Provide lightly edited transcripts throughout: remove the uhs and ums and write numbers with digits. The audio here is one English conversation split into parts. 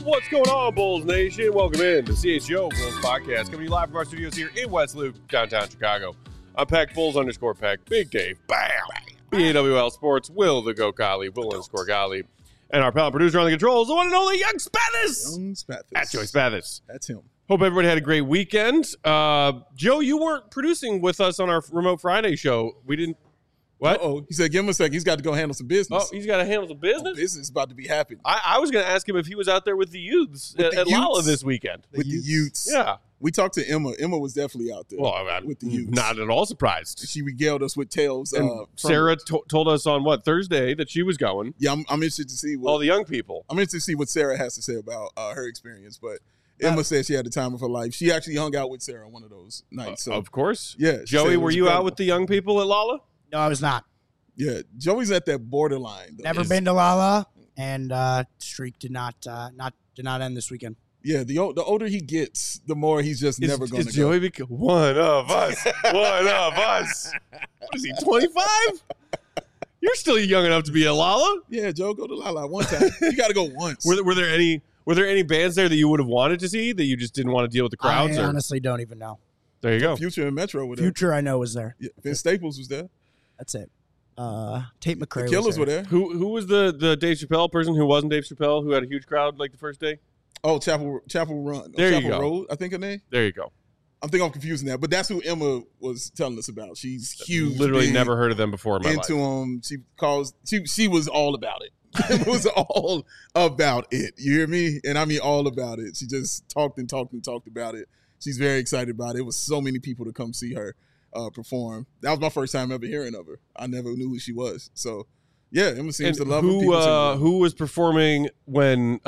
What's going on, Bulls Nation? Welcome in to CHGO Bulls Podcast, coming to you live from our studios here in West Loop, downtown Chicago. I'm Peck, Bulls_Peck, Big Dave, bam, BAWL Sports, Will the Go Golly, Will_Golly, and our pal producer on the controls, the one and only Young Spathis. Young Spathis. That's Joey Spathis. That's him. Hope everybody had a great weekend. Joe, you weren't producing with us on our Remote Friday show. We didn't. What? Uh-oh. He said, give him a second. He's got to go handle some business. Oh, he's got to handle some business? Business is about to be happening. I was going to ask him if he was out there with the youths at Lala this weekend. With the youths. Yeah. We talked to Emma. Emma was definitely out there with the youths. Not at all surprised. She regaled us with tales. Sarah told us on, Thursday that she was going. Yeah, I'm interested to see all the young people. I'm interested to see what Sarah has to say about her experience. But Emma said she had the time of her life. She actually hung out with Sarah on one of those nights. So of course. Yeah. Joey, were you out with the young people at Lala? No, I was not. Yeah, Joey's at that borderline. Though. Never been to Lala, and streak did not end this weekend. Yeah, the older he gets, the more he's just never going to go. Joey one of us? One of us. What is he, 25? You're still young enough to be at Lala. Yeah, Joe, go to Lala one time. You got to go once. Were there any bands there that you would have wanted to see that you just didn't want to deal with the crowds? I honestly don't even know. There you go. Future and Metro were there. Future, I know, was there. Yeah, Vince Staples was there. That's it. Tate McRae. The Killers were there. Who was the Dave Chappelle person who wasn't Dave Chappelle who had a huge crowd like the first day? Oh, Chapel Run. There Chapel you go. Road, I think her name. There you go. I think I'm confusing that, but that's who Emma was telling us about. She's huge. Literally never heard of them before in my life. Into them. She was all about it. It was all about it. You hear me? And I mean all about it. She just talked about it. She's very excited about it. It was so many people to come see her perform. That was my first time ever hearing of her. I never knew who she was. So, yeah, Emma seems to love her. Who was performing when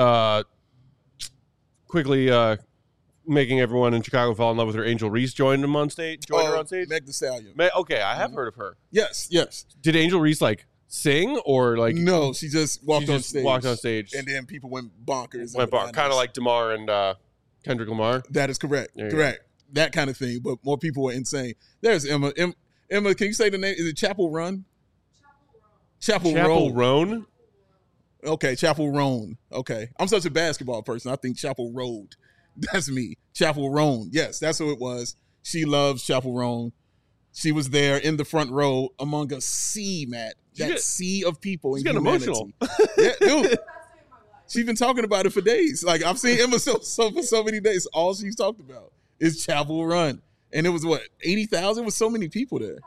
quickly making everyone in Chicago fall in love with her? Angel Reese joined her on stage. Meg Thee Stallion. Okay, I have heard of her. Yes. Did Angel Reese sing or No, she just walked on stage. And then people went bonkers. Kind of like DeMar and Kendrick Lamar. That is correct. Correct. That kind of thing, but more people were insane. There's Emma. Emma, can you say the name? Is it Chapel Run? Chapel Roan. Okay, Chapel Roan. Okay. I'm such a basketball person. I think Chapel Road. That's me. Chapel Roan. Yes, that's who it was. She loves Chapel Roan. She was there in the front row among a sea, Matt. That sea of people in humanity. Emotional. Yeah, dude. She's been talking about it for days. Like, I've seen Emma for so many days. All she's talked about is Chapel Run. And it was, 80,000? It was so many people there.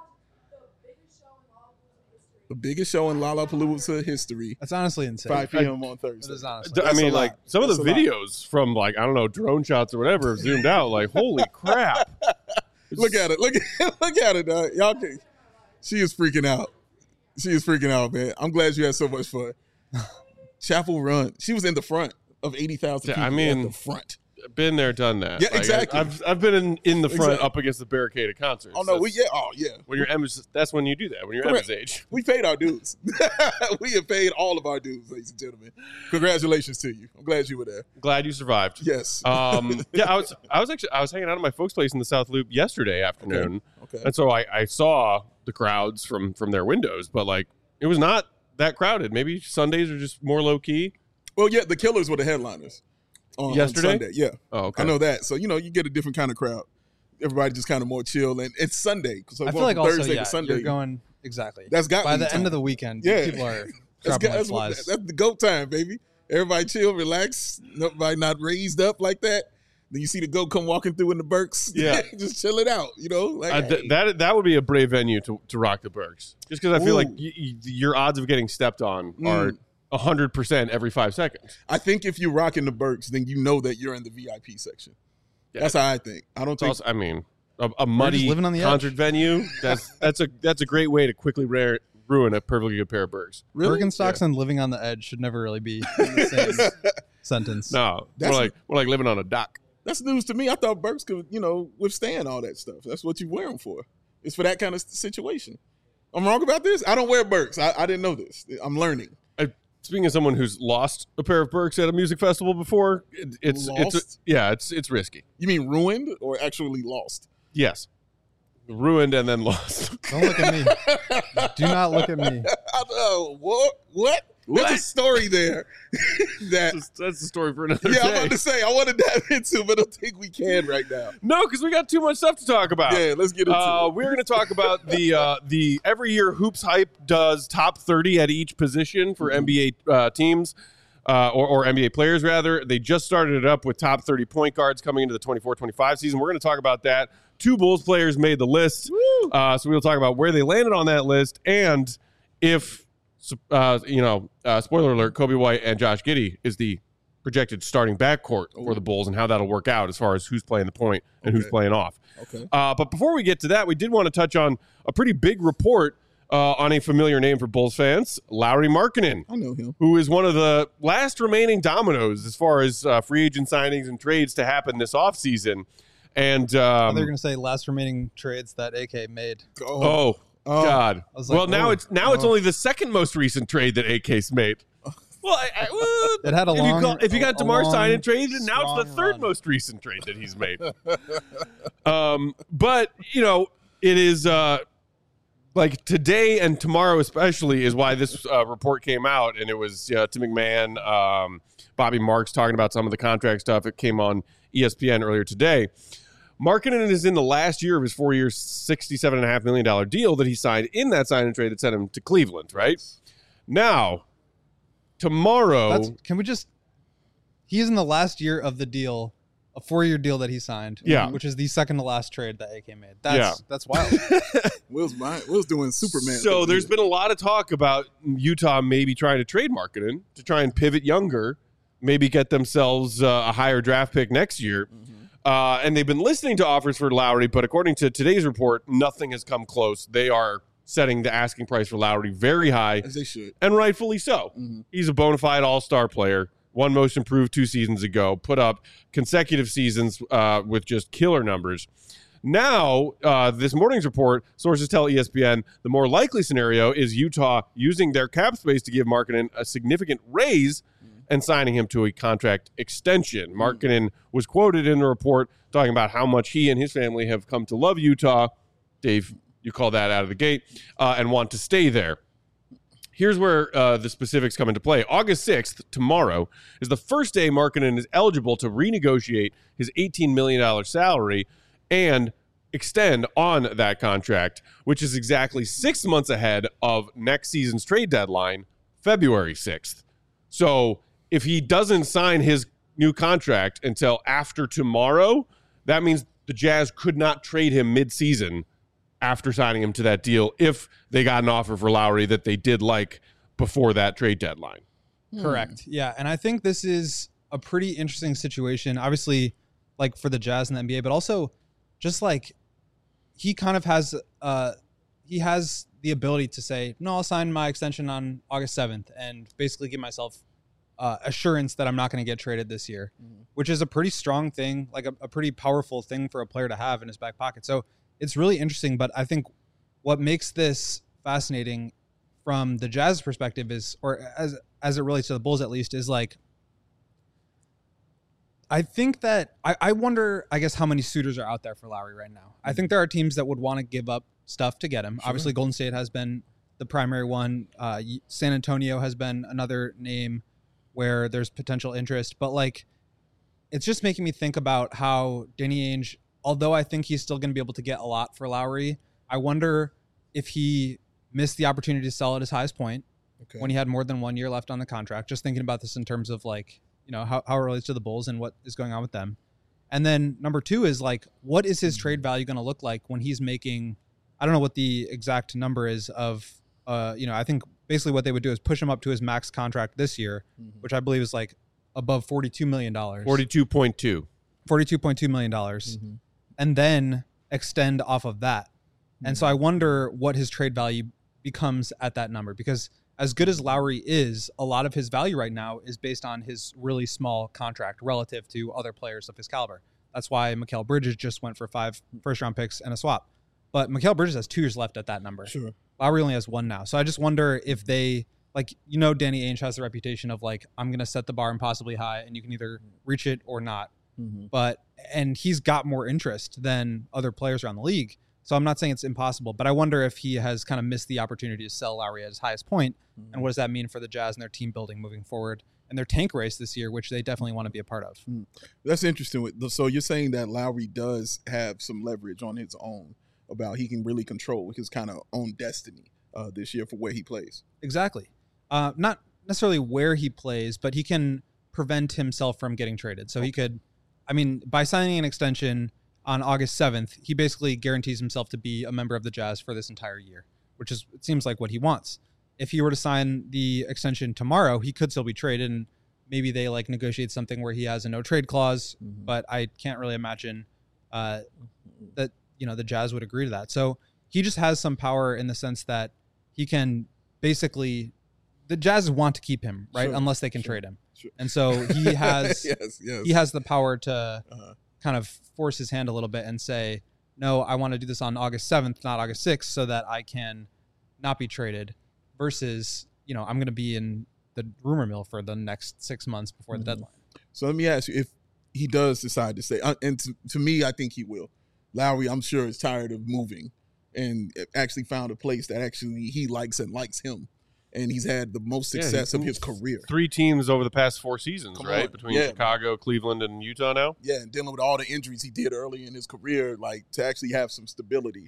The biggest show in Lollapalooza history. That's honestly insane. 5 p.m. on Thursday. That is honestly. I mean, some of the videos from, I don't know, drone shots or whatever have zoomed out. Holy crap. Look at it. Look at it, dog. Y'all can, she is freaking out. She is freaking out, man. I'm glad you had so much fun. Chapel Run. She was in the front of 80,000 people. I mean, at the front. Been there, done that. Yeah, exactly. I've been in the front up against the barricaded concerts. Oh no, yeah. When you're Emma's, that's when you do that. When you're Emma's age, we paid our dues. We have paid all of our dues, ladies and gentlemen. Congratulations to you. I'm glad you were there. Glad you survived. Yes. Yeah, I was hanging out at my folks' place in the South Loop yesterday afternoon. Okay. And so I saw the crowds from their windows, but it was not that crowded. Maybe Sundays are just more low key. Well, yeah, the Killers were the headliners. Yesterday? On Sunday, yeah. Oh, okay. I know that. So, you get a different kind of crowd. Everybody just kind of more chill. And it's Sunday. So I feel like also, Thursday to Sunday. You're going, exactly. That's got by the time. end of the weekend, yeah. people are dropping like flies. That's the GOAT time, baby. Everybody chill, relax. Nobody not raised up like that. Then you see the GOAT come walking through in the Berks. Yeah. Just chill it out, hey. That would be a brave venue to rock the Berks. Just because I feel like your odds of getting stepped on are 100% every 5 seconds. I think if you're rocking the Berks, then you know that you're in the VIP section. Yeah. That's how I think. I don't think. Also, I mean, a muddy living on the concert venue. That's a great way to quickly ruin a perfectly good pair of Berks. Really? Birkenstocks and living on the edge should never really be in the same sentence. No, more like living on a dock. That's news to me. I thought Berks could, withstand all that stuff. That's what you wear them for. It's for that kind of situation. I'm wrong about this? I don't wear Berks. I didn't know this. I'm learning. Speaking of someone who's lost a pair of Berks at a music festival before, it's risky. You mean ruined or actually lost? Yes. Ruined and then lost. Don't look at me. Do not look at me. What? There's a story there That's the story for another I'm day. about to say, I want to dive into, but I don't think we can right now. No, because we got too much stuff to talk about. Yeah, let's get into it. We're going to talk about the every year Hoops Hype does top 30 at each position for NBA teams or NBA players, rather. They just started it up with top 30 point guards coming into the 24-25 season. We're going to talk about that. 2 Bulls players made the list. So we'll talk about where they landed on that list and if, spoiler alert, Kobe White and Josh Giddey is the projected starting backcourt for the Bulls and how that'll work out as far as who's playing the point and who's playing off. Okay. But before we get to that, we did want to touch on a pretty big report on a familiar name for Bulls fans, Lauri Markkanen. I know him. Who is one of the last remaining dominoes as far as free agent signings and trades to happen this offseason. And they're going to say last remaining trades that AK made. Oh, God. I was like, well, now it's only the second most recent trade that AK's made. Well, it had a if you got DeMar sign and traded, and now it's the third run. most recent trade that he's made. But it is like today and tomorrow especially is why this report came out, and it was Tim McMahon, Bobby Marks talking about some of the contract stuff. It came on ESPN earlier today. Markkanen is in the last year of his 4-year, $67.5 million deal that he signed in that sign and trade that sent him to Cleveland, right? Now, tomorrow... He's in the last year of the deal, a 4-year deal that he signed, which is the second to last trade that AK made. That's wild. Will's doing Superman. So there's been a lot of talk about Utah maybe trying to trade Markkanen to try and pivot younger, maybe get themselves a higher draft pick next year. And they've been listening to offers for Lauri, but according to today's report, nothing has come close. They are setting the asking price for Lauri very high. As they should. And rightfully so. He's a bona fide all-star player. Won most improved 2 seasons ago. Put up consecutive seasons with just killer numbers. Now, this morning's report, sources tell ESPN, the more likely scenario is Utah using their cap space to give Markkanen a significant raise and signing him to a contract extension. Markkanen was quoted in the report talking about how much he and his family have come to love Utah. Dave, you call that out of the gate, and want to stay there. Here's where the specifics come into play. August 6th, tomorrow, is the first day Markkanen is eligible to renegotiate his $18 million salary and extend on that contract, which is exactly 6 months ahead of next season's trade deadline, February 6th. So if he doesn't sign his new contract until after tomorrow, that means the Jazz could not trade him mid-season after signing him to that deal if they got an offer for Lauri that they did like before that trade deadline. Correct. Yeah, and I think this is a pretty interesting situation, obviously, like for the Jazz and the NBA, but also just like he kind of has the ability to say, no, I'll sign my extension on August 7th and basically give myself assurance that I'm not going to get traded this year, which is a pretty strong thing, like a pretty powerful thing for a player to have in his back pocket. So it's really interesting, but I think what makes this fascinating from the Jazz perspective is, or as it relates to the Bulls at least, is like, I think that I wonder, I guess, how many suitors are out there for Lauri right now. I think there are teams that would want to give up stuff to get him. Sure. Obviously, Golden State has been the primary one. San Antonio has been another name where there's potential interest. But, like, it's just making me think about how Danny Ainge, although I think he's still going to be able to get a lot for Lauri, I wonder if he missed the opportunity to sell at his highest point when he had more than 1 year left on the contract. Just thinking about this in terms of, like, you know, how it relates to the Bulls and what is going on with them. And then number 2 is, like, what is his trade value going to look like when he's making, I don't know what the exact number is of, I think basically what they would do is push him up to his max contract this year, which I believe is like above $42 million. $42.2 million. And then extend off of that. And so I wonder what his trade value becomes at that number, because as good as Lauri is, a lot of his value right now is based on his really small contract relative to other players of his caliber. That's why Mikal Bridges just went for 5 first-round picks and a swap. But Mikal Bridges has 2 years left at that number. Sure. Lauri only has 1 now. So I just wonder if they, like, Danny Ainge has the reputation of, like, I'm going to set the bar impossibly high and you can either reach it or not. And he's got more interest than other players around the league. So I'm not saying it's impossible, but I wonder if he has kind of missed the opportunity to sell Lowry at his highest point. And what does that mean for the Jazz and their team building moving forward and their tank race this year, which they definitely want to be a part of. That's interesting. So you're saying that Lowry does have some leverage on his own about he can really control his kind of own destiny this year for where he plays. Exactly. Not necessarily where he plays, but he can prevent himself from getting traded. So he could, by signing an extension on August 7th, he basically guarantees himself to be a member of the Jazz for this entire year, which is, it seems like, what he wants. If he were to sign the extension tomorrow, he could still be traded, and maybe they negotiate something where he has a no trade clause, but I can't really imagine that, the Jazz would agree to that. So he just has some power in the sense that he can basically, the Jazz want to keep him, right? Sure, unless they can trade him. Sure. And so he has, he has the power to kind of force his hand a little bit and say, no, I want to do this on August 7th, not August 6th, so that I can not be traded versus, I'm going to be in the rumor mill for the next 6 months before the deadline. So let me ask you, if he does decide to stay, and to me, I think he will. Lowry, I'm sure, is tired of moving and actually found a place that actually he likes and likes him. And he's had the most success of his career. 3 teams over the past 4 seasons, right? Between Chicago, Cleveland, and Utah now. Yeah, and dealing with all the injuries he did early in his career, to actually have some stability.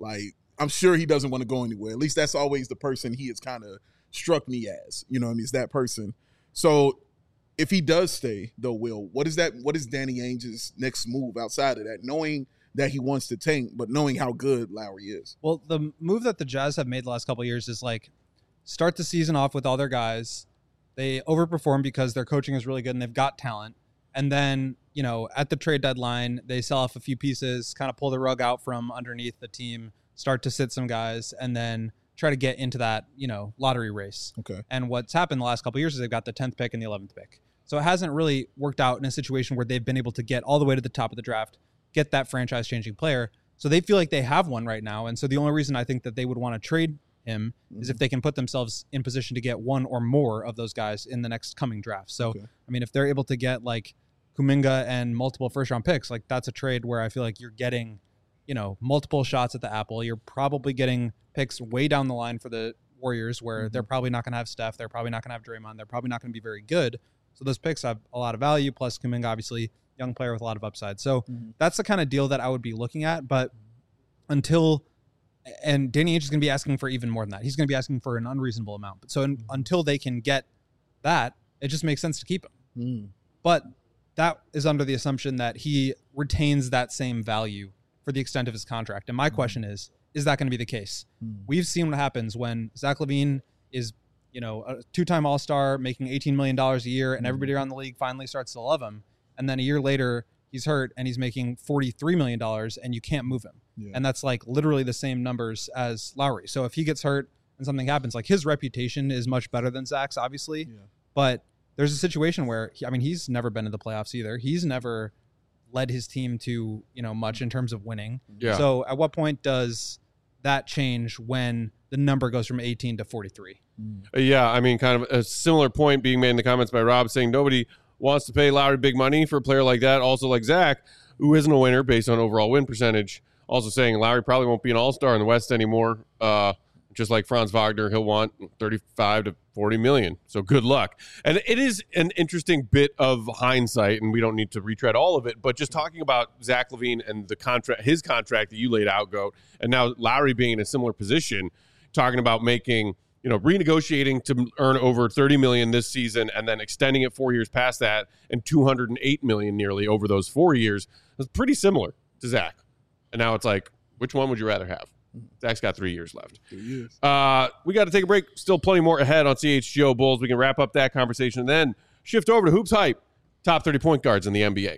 I'm sure he doesn't want to go anywhere. At least that's always the person he has kind of struck me as. It's that person. So if he does stay, though, Will, what is Danny Ainge's next move outside of that? Knowing that he wants to tank, but knowing how good Lowry is. Well, the move that the Jazz have made the last couple of years is start the season off with all their guys. They overperform because their coaching is really good and they've got talent. And then, at the trade deadline, they sell off a few pieces, kind of pull the rug out from underneath the team, start to sit some guys, and then try to get into that, lottery race. Okay. And what's happened the last couple of years is they've got the 10th pick and the 11th pick. So it hasn't really worked out in a situation where they've been able to get all the way to the top of the draft, get that franchise-changing player. So they feel like they have one right now. And so the only reason I think that they would want to trade him is if they can put themselves in position to get one or more of those guys in the next coming draft. So, if they're able to get Kuminga and multiple first-round picks, that's a trade where I feel like you're getting, multiple shots at the apple. You're probably getting picks way down the line for the Warriors where they're probably not going to have Steph. They're probably not going to have Draymond. They're probably not going to be very good. So those picks have a lot of value. Plus Kuminga, obviously, young player with a lot of upside. So that's the kind of deal that I would be looking at. But and Danny Ainge is going to be asking for even more than that. He's going to be asking for an unreasonable amount. But so until they can get that, it just makes sense to keep him. But that is under the assumption that he retains that same value for the extent of his contract. And my question is that going to be the case? We've seen what happens when Zach LaVine is, a 2-time All-Star making $18 million a year and everybody around the league finally starts to love him. And then a year later, he's hurt and he's making $43 million and you can't move him. Yeah. And that's literally the same numbers as Lowry. So if he gets hurt and something happens, his reputation is much better than Zach's, obviously. Yeah. But there's a situation where, he's never been in the playoffs either. He's never led his team to, much in terms of winning. Yeah. So at what point does that change when the number goes from 18 to 43? Yeah, kind of a similar point being made in the comments by Rob saying nobody wants to pay Lowry big money for a player like that, also like Zach, who isn't a winner based on overall win percentage. Also saying Lowry probably won't be an all-star in the West anymore. Just like Franz Wagner, he'll want 35 to 40 million. So good luck. And it is an interesting bit of hindsight, and we don't need to retread all of it, but just talking about Zach LaVine and his contract that you laid out, Goat, and now Lowry being in a similar position, talking about making, renegotiating to earn over 30 million this season and then extending it 4 years past that and 208 million nearly over those 4 years. It's pretty similar to Zach. And now it's which one would you rather have? Zach's got 3 years left. 3 years. We got to take a break. Still plenty more ahead on CHGO Bulls. We can wrap up that conversation and then shift over to Hoops Hype, top 30 point guards in the NBA.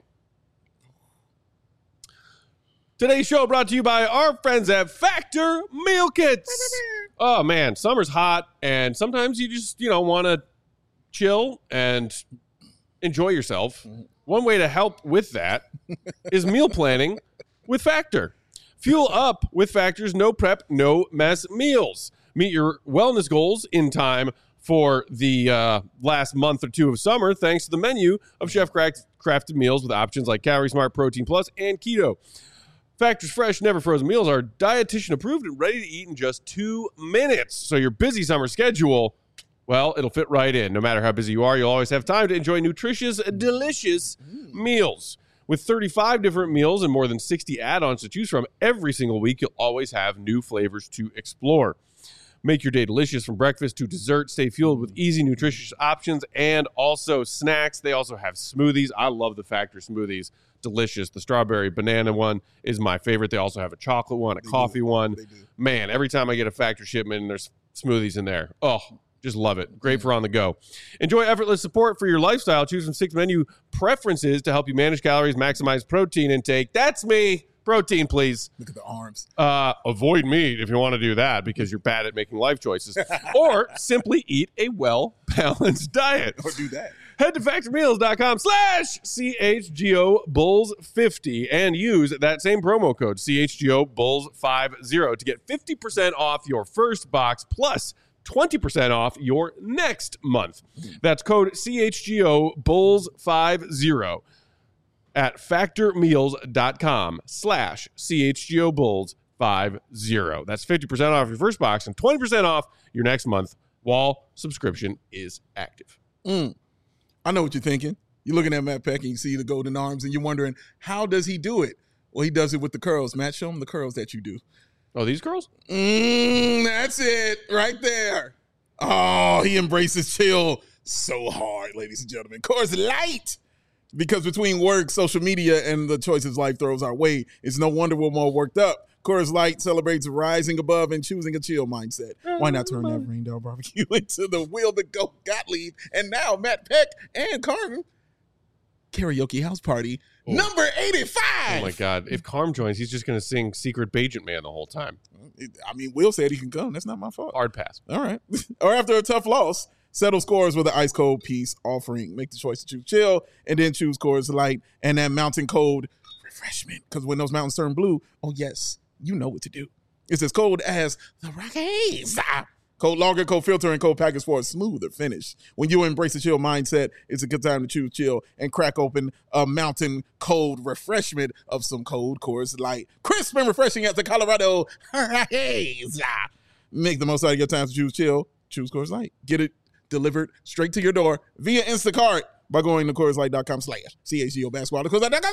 Today's show brought to you by our friends at Factor Meal Kits. Oh, man, summer's hot, and sometimes you just, want to chill and enjoy yourself. One way to help with that is meal planning with Factor. Fuel up with Factor's no prep, no mess meals. Meet your wellness goals in time for the last month or two of summer thanks to the menu of chef-crafted meals with options like Calorie Smart, Protein Plus, and Keto. Factor's fresh, never frozen meals are dietitian approved and ready to eat in just 2 minutes. So your busy summer schedule, well, it'll fit right in. No matter how busy you are, you'll always have time to enjoy nutritious, delicious meals. With 35 different meals and more than 60 add-ons to choose from every single week, you'll always have new flavors to explore. Make your day delicious from breakfast to dessert. Stay fueled with easy, nutritious options and also snacks. They also have smoothies. I love the Factor smoothies. Delicious. The strawberry banana one is my favorite. They also have a chocolate one, a coffee one. Man, every time I get a Factor shipment and there's smoothies in there. Oh, just love it. Great for on the go. Enjoy effortless support for your lifestyle. Choose from 6 menu preferences to help you manage calories, maximize protein intake. That's me. Protein, please. Look at the arms. Avoid meat if you want to do that because you're bad at making life choices. Or simply eat a well-balanced diet. Or do that. Head to factormeals.com/CHGOBulls50 and use that same promo code CHGOBulls50 to get 50% off your first box plus 20% off your next month. That's code CHGOBulls50 at factormeals.com/CHGOBulls50. That's 50% off your first box and 20% off your next month while subscription is active. I know what you're thinking. You're looking at Matt Peck and you see the golden arms and you're wondering, how does he do it? Well, he does it with the curls. Matt, show him the curls that you do. Oh, these curls? That's it right there. Oh, he embraces chill so hard, ladies and gentlemen. Coors Light. Because between work, social media, and the choices life throws our way, it's no wonder we're more worked up. Coors Light celebrates rising above and choosing a chill mindset. Why not turn that Raindale barbecue into the Will to Go Gottlieb and now Matt Peck and Carm karaoke house party number 85? Oh, my God. If Carm joins, he's just going to sing Secret Bajent Man the whole time. I mean, Will said he can come. That's not my fault. Hard pass. All right. Or after a tough loss, settle scores with an ice cold peace offering. Make the choice to choose chill and then choose Coors Light and that mountain cold refreshment. Because when those mountains turn blue, oh, yes, you know what to do. It's as cold as the Rockies. Cold lager, cold filter, and cold package for a smoother finish. When you embrace the chill mindset, it's a good time to choose chill and crack open a mountain cold refreshment of some cold Coors Light. Crisp and refreshing as the Colorado Rockies. Make the most out of your time to choose chill. Choose Coors Light. Get it delivered straight to your door via Instacart by going to CoorsLight.com/CHGO basketball.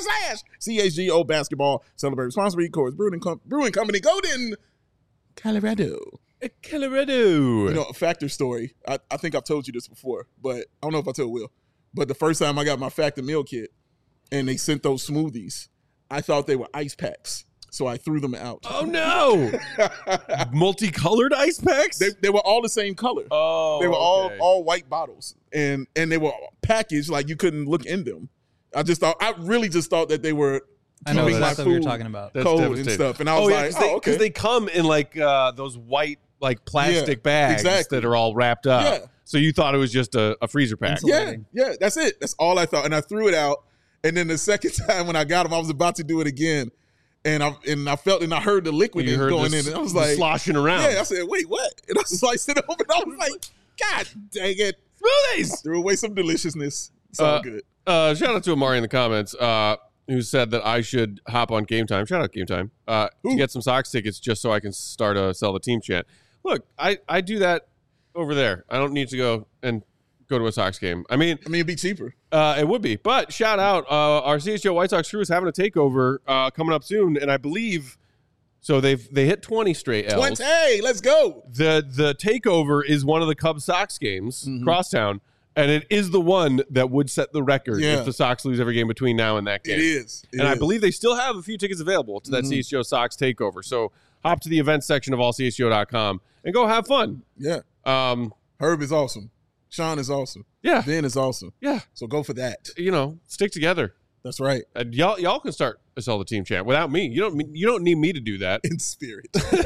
CHGO basketball. Celebrate responsibly. Coors Brewing Company, Golden, Colorado. Colorado. You know, a Factor story. I think I've told you this before, but I don't know if I told Will. But the first time I got my Factor meal kit and they sent those smoothies, I thought they were ice packs. So I threw them out. Oh, no. Multicolored ice packs? They were all the same color. Oh, they were all white bottles. And they were packaged like you couldn't look in them. I really just thought that they were I know keeping that's my what you're food talking about. That's cold and devastating. stuff. And I was okay. Because they come in like those white like plastic bags exactly. that are all wrapped up. Yeah. So you thought it was just a freezer pack. Yeah, that's it. That's all I thought. And I threw it out. And then the second time when I got them, I was about to do it again. And I felt and I heard the liquid going in. And I was like sloshing around. Yeah, I said, wait, what? And I was like sitting over and I was like, God dang it. Smoothies! Threw away some deliciousness. It's all good. Shout out to Amari in the comments who said that I should hop on Game Time. Shout out Game Time. To get some Sox tickets just so I can start a Sell the Team chant. Look, I do that over there. I don't need to go to a Sox game. I mean, it'd be cheaper. It would be. But shout out, our CHGO White Sox crew is having a takeover coming up soon, and I believe so. They hit 20 straight L's. 20, let's go. The takeover is one of the Cubs Sox games, Crosstown, and it is the one that would set the record if the Sox lose every game between now and that game. It is. I believe they still have a few tickets available to that CHGO Sox takeover. So hop to the events section of allchgo.com and go have fun. Yeah. Herb is awesome. Sean is awesome. Yeah. Ben is awesome. Yeah. So go for that. You know, stick together. That's right. And y'all can start a Sell the Team chant without me. You don't need me to do that. In spirit.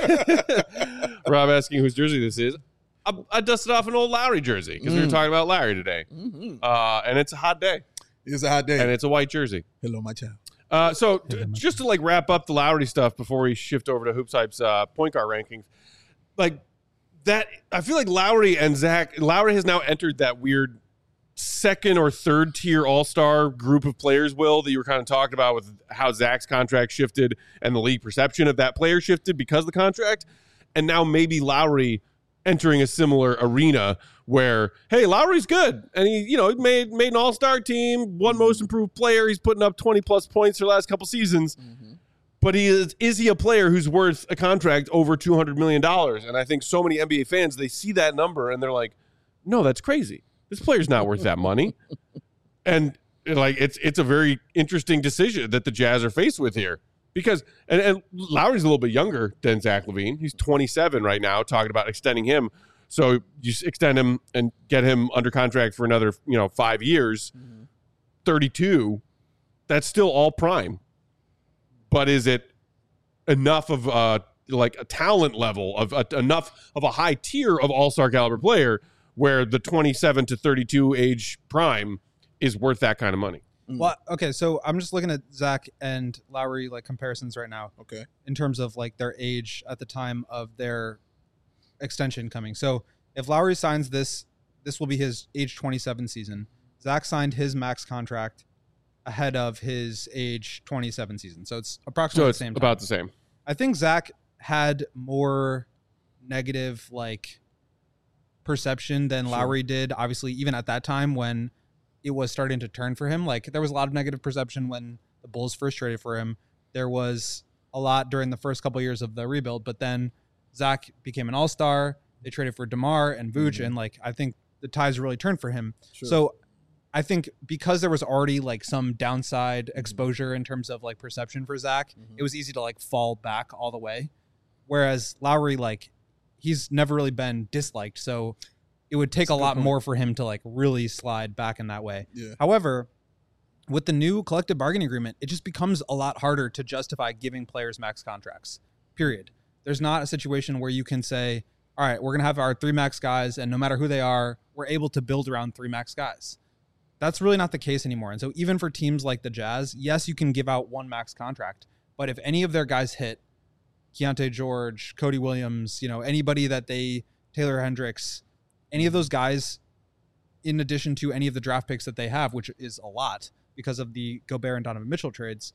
Rob asking whose jersey this is. I dusted off an old Lowry jersey because we were talking about Lowry today. And it's a hot day. It's a hot day. And it's a white jersey. Hello, my child. Just to wrap up the Lowry stuff before we shift over to Hoops Hype's point guard rankings, that I feel like Lowry has now entered that weird second or third tier all-star group of players, Will, that you were kind of talking about with how Zach's contract shifted and the league perception of that player shifted because of the contract. And now maybe Lowry entering a similar arena where, hey, Lowry's good. And he made an all-star team, one most improved player. He's putting up 20-plus points for the last couple seasons. Mm-hmm. But is he a player who's worth a contract over $200 million? And I think so many NBA fans, they see that number and they're like, no, that's crazy. This player's not worth that money. And it's a very interesting decision that the Jazz are faced with here. Because and Lowry's a little bit younger than Zach LaVine. He's 27 right now, talking about extending him. So you extend him and get him under contract for another 5 years. Mm-hmm. 32, that's still all prime. But is it enough of a talent level of enough of a high tier of all-star caliber player where the 27 to 32 age prime is worth that kind of money? Well, okay, so I'm just looking at Zach and Lowry comparisons right now. Okay. In terms of their age at the time of their extension coming. So if Lowry signs this will be his age 27 season. Zach signed his max contract ahead of his age 27 season. So it's approximately the same time. About the same. I think Zach had more negative perception than Lowry did, obviously, even at that time when it was starting to turn for him. There was a lot of negative perception when the Bulls first traded for him. There was a lot during the first couple of years of the rebuild, but then Zach became an all-star. They traded for DeMar and Vooch, and I think the tides really turned for him. Sure. So I think because there was already some downside exposure in terms of perception for Zach, it was easy to fall back all the way. Whereas Lowry, he's never really been disliked. So it would take a lot more for him to really slide back in that way. Yeah. However, with the new collective bargaining agreement, it just becomes a lot harder to justify giving players max contracts, period. There's not a situation where you can say, all right, we're going to have our 3 max guys, and no matter who they are, we're able to build around 3 max guys. That's really not the case anymore. And so even for teams like the Jazz, yes, you can give out 1 max contract, but if any of their guys hit, Keontae George, Cody Williams, anybody that Taylor Hendricks, any of those guys, in addition to any of the draft picks that they have, which is a lot because of the Gobert and Donovan Mitchell trades,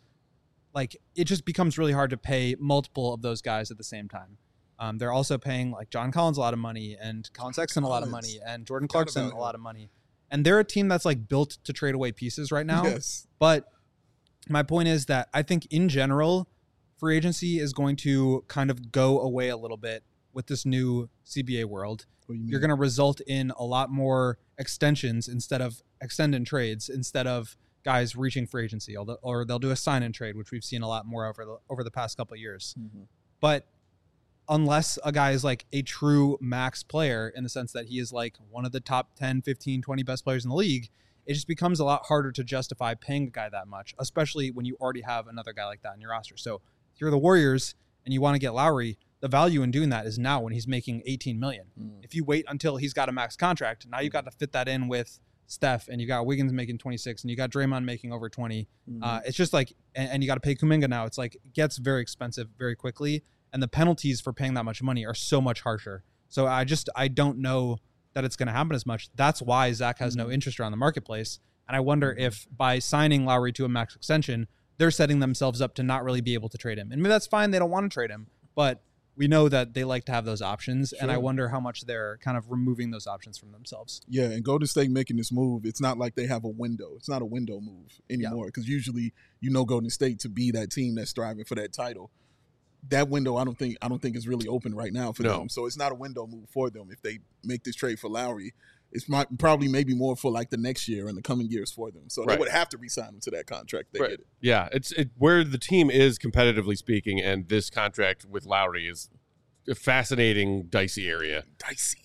it just becomes really hard to pay multiple of those guys at the same time. They're also paying John Collins a lot of money and Colin Sexton a lot of money and Jordan Clarkson a lot of money. And they're a team that's built to trade away pieces right now. Yes. But my point is that I think in general, free agency is going to kind of go away a little bit with this new CBA world. You're going to result in a lot more extensions instead of extend and trades, instead of guys reaching free agency, or they'll do a sign and trade, which we've seen a lot more over the past couple of years. Mm-hmm. But unless a guy is a true max player in the sense that he is one of the top 10, 15, 20 best players in the league, it just becomes a lot harder to justify paying a guy that much, especially when you already have another guy like that in your roster. So if you're the Warriors and you want to get Lowry, the value in doing that is now when he's making $18 million. If you wait until he's got a max contract, now you've got to fit that in with Steph, and you got Wiggins making 26, and you got Draymond making over 20. It's just and you got to pay Kuminga now. It's it gets very expensive very quickly, and the penalties for paying that much money are so much harsher. So I don't know that it's going to happen as much. That's why Zach has no interest around the marketplace. And I wonder if by signing Lowry to a max extension, they're setting themselves up to not really be able to trade him. And maybe that's fine. They don't want to trade him, but we know that they like to have those options. Sure. And I wonder how much they're kind of removing those options from themselves. Yeah. And Golden State making this move, it's not like they have a window. It's not a window move anymore. Because usually, Golden State to be that team that's striving for that title. That window, I don't think is really open right now for them. So it's not a window move for them if they make this trade for Lowry. It's probably maybe more for the next year and the coming years for them. So they would have to re-sign him to that contract. They get it. Yeah, it's where the team is competitively speaking, and this contract with Lowry is a fascinating, dicey area. Dicey.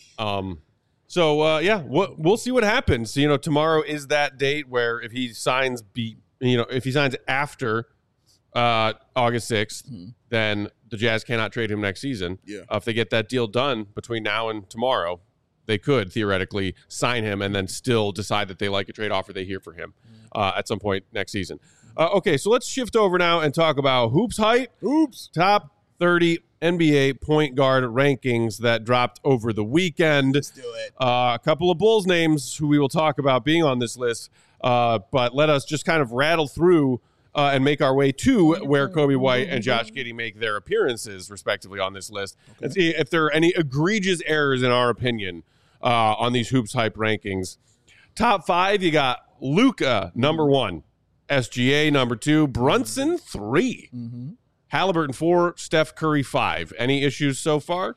We'll see what happens. Tomorrow is that date where if he signs after August 6th, then the Jazz cannot trade him next season. Yeah. If they get that deal done between now and tomorrow, they could theoretically sign him and then still decide that they like a trade offer they hear for him at some point next season. Okay, so let's shift over now and talk about Hoops Height. Hoops. Top 30 NBA point guard rankings that dropped over the weekend. Let's do it. A couple of Bulls names who we will talk about being on this list, but let us just kind of rattle through and make our way to where Kobe White and Josh Giddey make their appearances, respectively, on this list, and see if there are any egregious errors, in our opinion, on these Hoops Hype rankings. Top 5, you got Luka, number 1. SGA, number 2. Brunson, 3. Halliburton, 4. Steph Curry, 5. Any issues so far?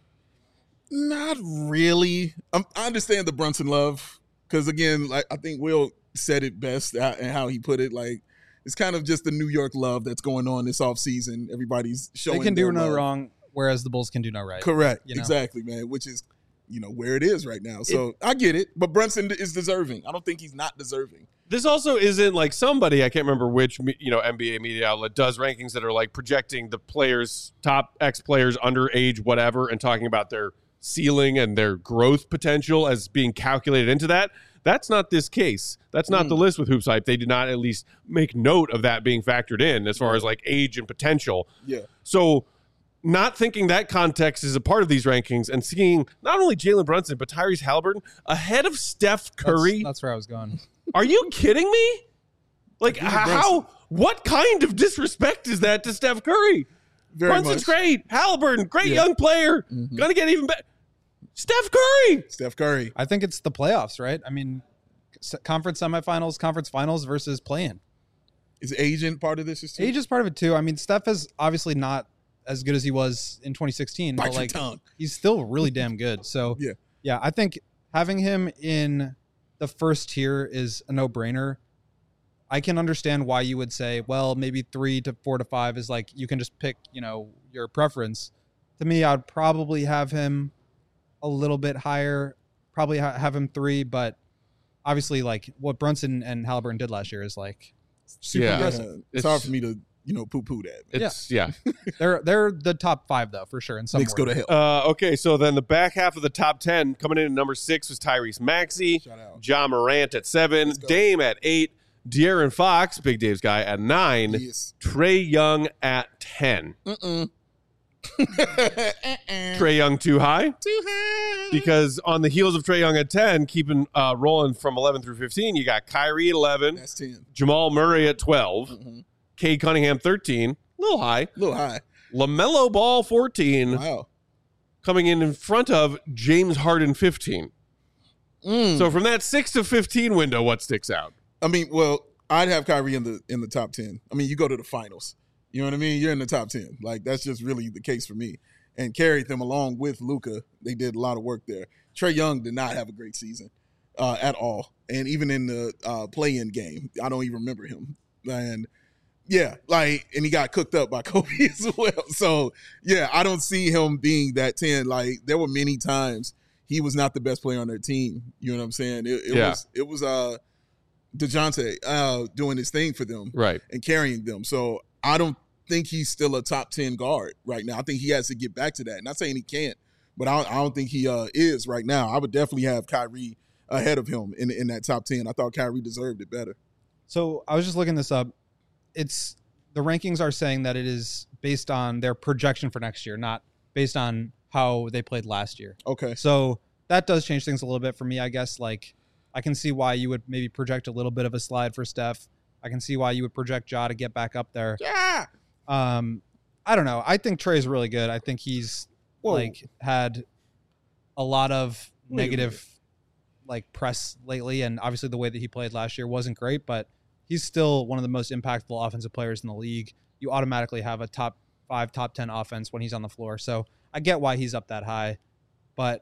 Not really. I understand the Brunson love because, again, like I think Will said it best and how he put it. Like, it's kind of just the New York love that's going on this offseason. Everybody's showing They can do their no love. wrong, whereas the Bulls can do no right. Correct. You know? Exactly, man, which is, where it is right now. So I get it, but Brunson is deserving. I don't think he's not deserving. This also isn't like somebody, I can't remember which, NBA media outlet does rankings that are like projecting the players, top X players, underage, whatever, and talking about their ceiling and their growth potential as being calculated into that. That's not this case. That's not the list with Hoops Hype. They did not at least make note of that being factored in as far as like age and potential. Yeah. So not thinking that context is a part of these rankings and seeing not only Jalen Brunson, but Tyrese Halliburton ahead of Steph Curry. That's where I was going. Are you kidding me? Like, what kind of disrespect is that to Steph Curry? Very Brunson's much. great. Halliburton, great young player. Gonna get even better. Steph Curry. Steph Curry. I think it's the playoffs, right? I mean, conference semifinals, conference finals versus play-in. Is agent part of this? Age is part of it, too. I mean, Steph is obviously not as good as he was in 2016, Bite but your like tongue. he's still really damn good. So yeah, I think having him in the first tier is a no-brainer. I can understand why you would say, well, maybe 3 to 4 to 5 is like you can just pick, your preference. To me, I'd probably have him a little bit higher, probably have him 3, but obviously like what Brunson and Halliburton did last year is like super impressive. It's hard for me to, poo-poo that. It's They're the top 5 though, for sure. In some Knicks go order. to hell. Okay, so then the back half of the top 10 coming in at number 6 was Tyrese Maxey, Shout out. John Morant at 7, go. Dame at 8, De'Aaron Fox, Big Dave's guy, at 9, Yes. Trae Young at 10. Trae Young too high? Too high. Because on the heels of Trae Young at 10, keeping rolling from 11 through 15, you got Kyrie at 11, That's 10. Jamal Murray at 12, Cade Cunningham 13, a little high, A little high. LaMelo Ball 14, Wow. coming in front of James Harden 15. So from that 6 to 15 window, what sticks out? I mean, well, I'd have Kyrie in the top 10. I mean, you go to the finals. You know what I mean? You're in the top 10. Like, that's just really the case for me. And carried them along with Luka. They did a lot of work there. Trae Young did not have a great season at all. And even in the play-in game, I don't even remember him. And, and he got cooked up by Kobe as well. So, I don't see him being that 10. Like, there were many times he was not the best player on their team. You know what I'm saying? It was DeJounte doing his thing for them, Right. and carrying them. So I don't think he's still a top 10 guard right now. I think he has to get back to that. Not saying he can't, but I don't think he is right now. I would definitely have Kyrie ahead of him in that top 10. I thought Kyrie deserved it better. So I was just looking this up. It's the rankings are saying that it is based on their projection for next year, not based on how they played last year. Okay. So that does change things a little bit for me, I guess. Like, I can see why you would maybe project a little bit of a slide for Steph. I can see why you would project Ja to get back up there. Yeah. I don't know. I think Trey's really good. I think he's had a lot of negative press lately, and obviously the way that he played last year wasn't great, but he's still one of the most impactful offensive players in the league. You automatically have a top 5, top 10 offense when he's on the floor. So I get why he's up that high, but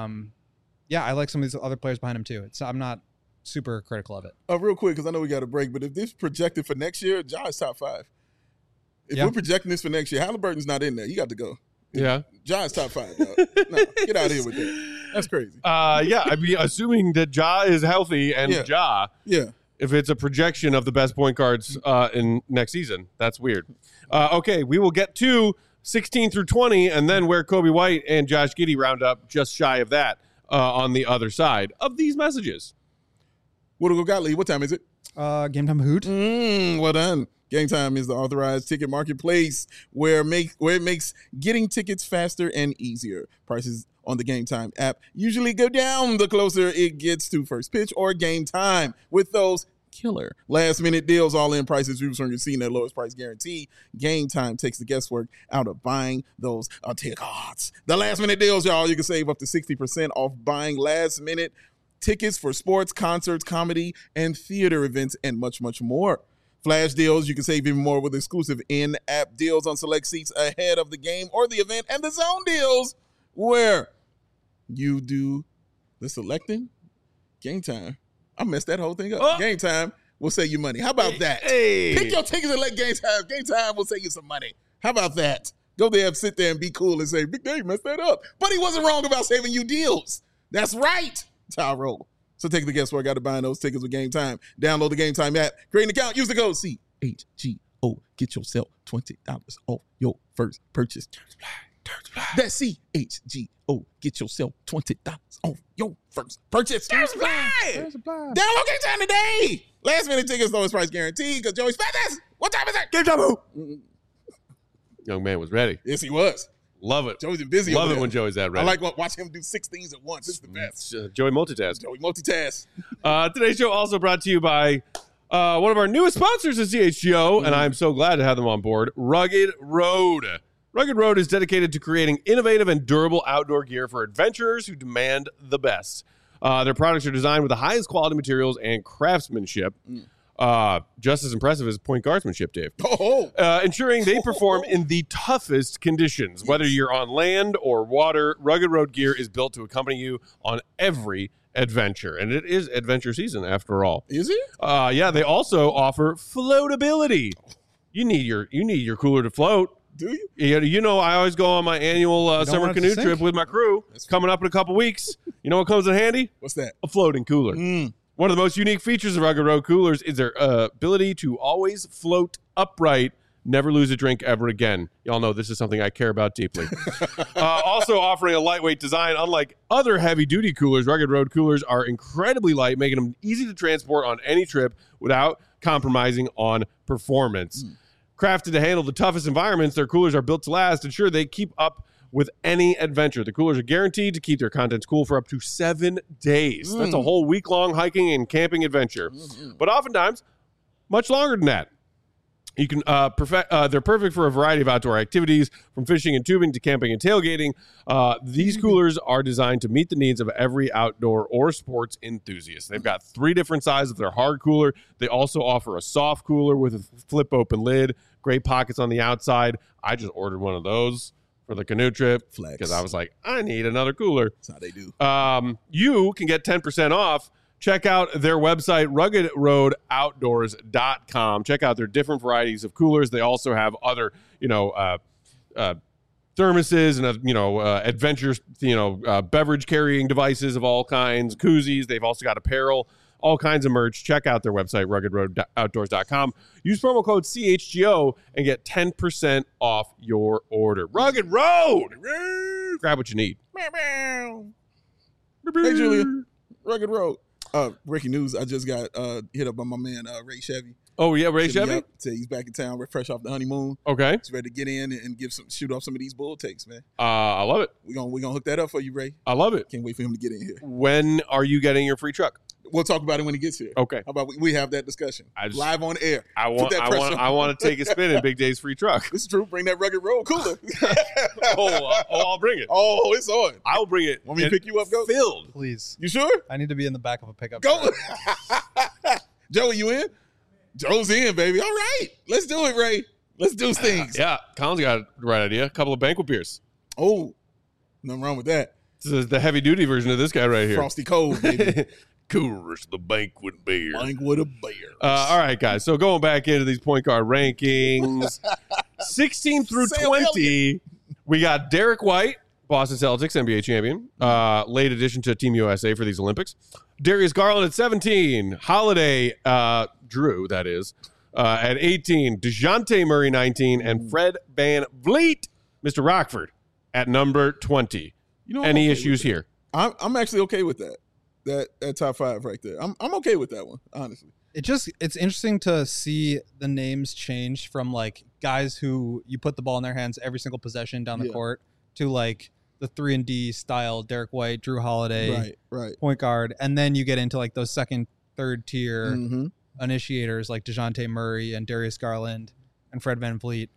I like some of these other players behind him too. I'm not super critical of it. Real quick, because I know we got a break, but if this projected for next year, Ja is top 5. If we're projecting this for next year, Halliburton's not in there. You got to go. Yeah. Ja is top 5, dog. No, get out of here with that. That's crazy. I'd be assuming that Ja is healthy and Ja. Yeah. If it's a projection of the best point guards in next season, that's weird. Okay, we will get to 16 through 20, and then where Kobe White and Josh Giddey round up just shy of that on the other side of these messages. What do we got, Lee? What time is it? Game time hoot. Well done. Game Time is the authorized ticket marketplace where it makes getting tickets faster and easier. Prices on the Game Time app usually go down the closer it gets to first pitch or game time. With those killer last-minute deals, all-in prices, from receiving their lowest price guarantee, Game Time takes the guesswork out of buying those tickets. The last-minute deals, y'all, you can save up to 60% off buying last-minute tickets for sports, concerts, comedy, and theater events, and much, much more. Flash deals, you can save even more with exclusive in-app deals on select seats ahead of the game or the event, and the zone deals where you do the selecting. Game Time. I messed that whole thing up. Oh. Game Time will save you money. How about that? Hey. Pick your tickets and let Game Time. Game Time will save you some money. How about that? Go there and sit there and be cool and say, Big Dave messed that up. But he wasn't wrong about saving you deals. That's right. That's how I roll. So take the guesswork out of buying those tickets with Game Time. Download the Game Time app. Create an account. Use the code CHGO. Get yourself $20 off your first purchase. That's CHGO. Get yourself $20 off your first purchase. Download Game Time today. Last minute tickets, lowest price guaranteed. Because Joey's fast. What time is it? Game Time. Young man was ready. Yes, he was. Love it. Joey's been busy. Love over it there. when Joey's that ready. I like watching him do 6 things at once. It's the best. Joey multitask. Joey multitask. Today's show also brought to you by one of our newest sponsors at CHGO, and I'm so glad to have them on board, Rugged Road. Rugged Road is dedicated to creating innovative and durable outdoor gear for adventurers who demand the best. Their products are designed with the highest quality materials and craftsmanship. Just as impressive as point guardsmanship, Dave. Ensuring they perform in the toughest conditions. Whether you're on land or water, Rugged Road gear is built to accompany you on every adventure. And it is adventure season, after all. Is it? Yeah, they also offer floatability. You need your cooler to float. Do you? You know, I always go on my annual summer want it to canoe sink. trip with my crew. It's coming up in a couple weeks. You know what comes in handy? What's that? A floating cooler. One of the most unique features of Rugged Road coolers is their ability to always float upright, never lose a drink ever again. Y'all know this is something I care about deeply. Also offering a lightweight design, unlike other heavy-duty coolers, Rugged Road coolers are incredibly light, making them easy to transport on any trip without compromising on performance. Crafted to handle the toughest environments, their coolers are built to last, ensure they keep up with any adventure. The coolers are guaranteed to keep their contents cool for up to 7 days. That's a whole week-long hiking and camping adventure. But oftentimes, much longer than that. You can they're perfect for a variety of outdoor activities, from fishing and tubing to camping and tailgating. These coolers are designed to meet the needs of every outdoor or sports enthusiast. They've got 3 different sizes of their hard cooler. They also offer a soft cooler with a flip-open lid, great pockets on the outside. I just ordered one of those for the canoe trip because I was like, I need another cooler. That's how they do. You can get 10% off. Check out their website, ruggedroadoutdoors.com. Check out their different varieties of coolers. They also have other, thermoses and, adventure, beverage carrying devices of all kinds, koozies. They've also got apparel, all kinds of merch. Check out their website, ruggedroadoutdoors.com. Use promo code CHGO and get 10% off your order. Rugged Road! Grab what you need. Hey, Julia. Rugged Road. Breaking news, I just got hit up by my man, Ray Chevy. Oh, yeah, Ray Chevy? Say he's back in town. We're fresh off the honeymoon. Okay. He's ready to get in and shoot off some of these bull takes, man. I love it. We're gonna hook that up for you, Ray. I love it. Can't wait for him to get in here. When are you getting your free truck? We'll talk about it when he gets here. Okay. How about we have that discussion live on air? I want to take a spin in Big Dave's free truck. This is true. Bring that Rugged Road cooler. I'll bring it. Oh, it's on. I'll bring it. Want me to pick you up, Go? Filled. Please. You sure? I need to be in the back of a pickup. Go. Joey, you in? Joe's in, baby. All right. Let's do it, Ray. Let's do things. Yeah. Colin's got the right idea. A couple of banquet beers. Oh, nothing wrong with that. This is the heavy duty version of this guy right here. Frosty Cold, baby. Coolers, the banquet beer. Banquet of beers. All right, guys. So going back into these point guard rankings, 16 through 20, we got Derek White, Boston Celtics, NBA champion, late addition to Team USA for these Olympics. Darius Garland at 17, Holiday, Drew, that is, at 18, DeJounte Murray, 19, and Fred VanVleet, Mr. Rockford, at number 20. Any issues here? I'm actually okay with that. That top 5 right there. I'm okay with that one, honestly. It's interesting to see the names change from like guys who you put the ball in their hands every single possession down the court to like the 3-and-D style Derek White, Drew Holiday, point guard, and then you get into like those second, third tier initiators like DeJounte Murray and Darius Garland and Fred VanVleet.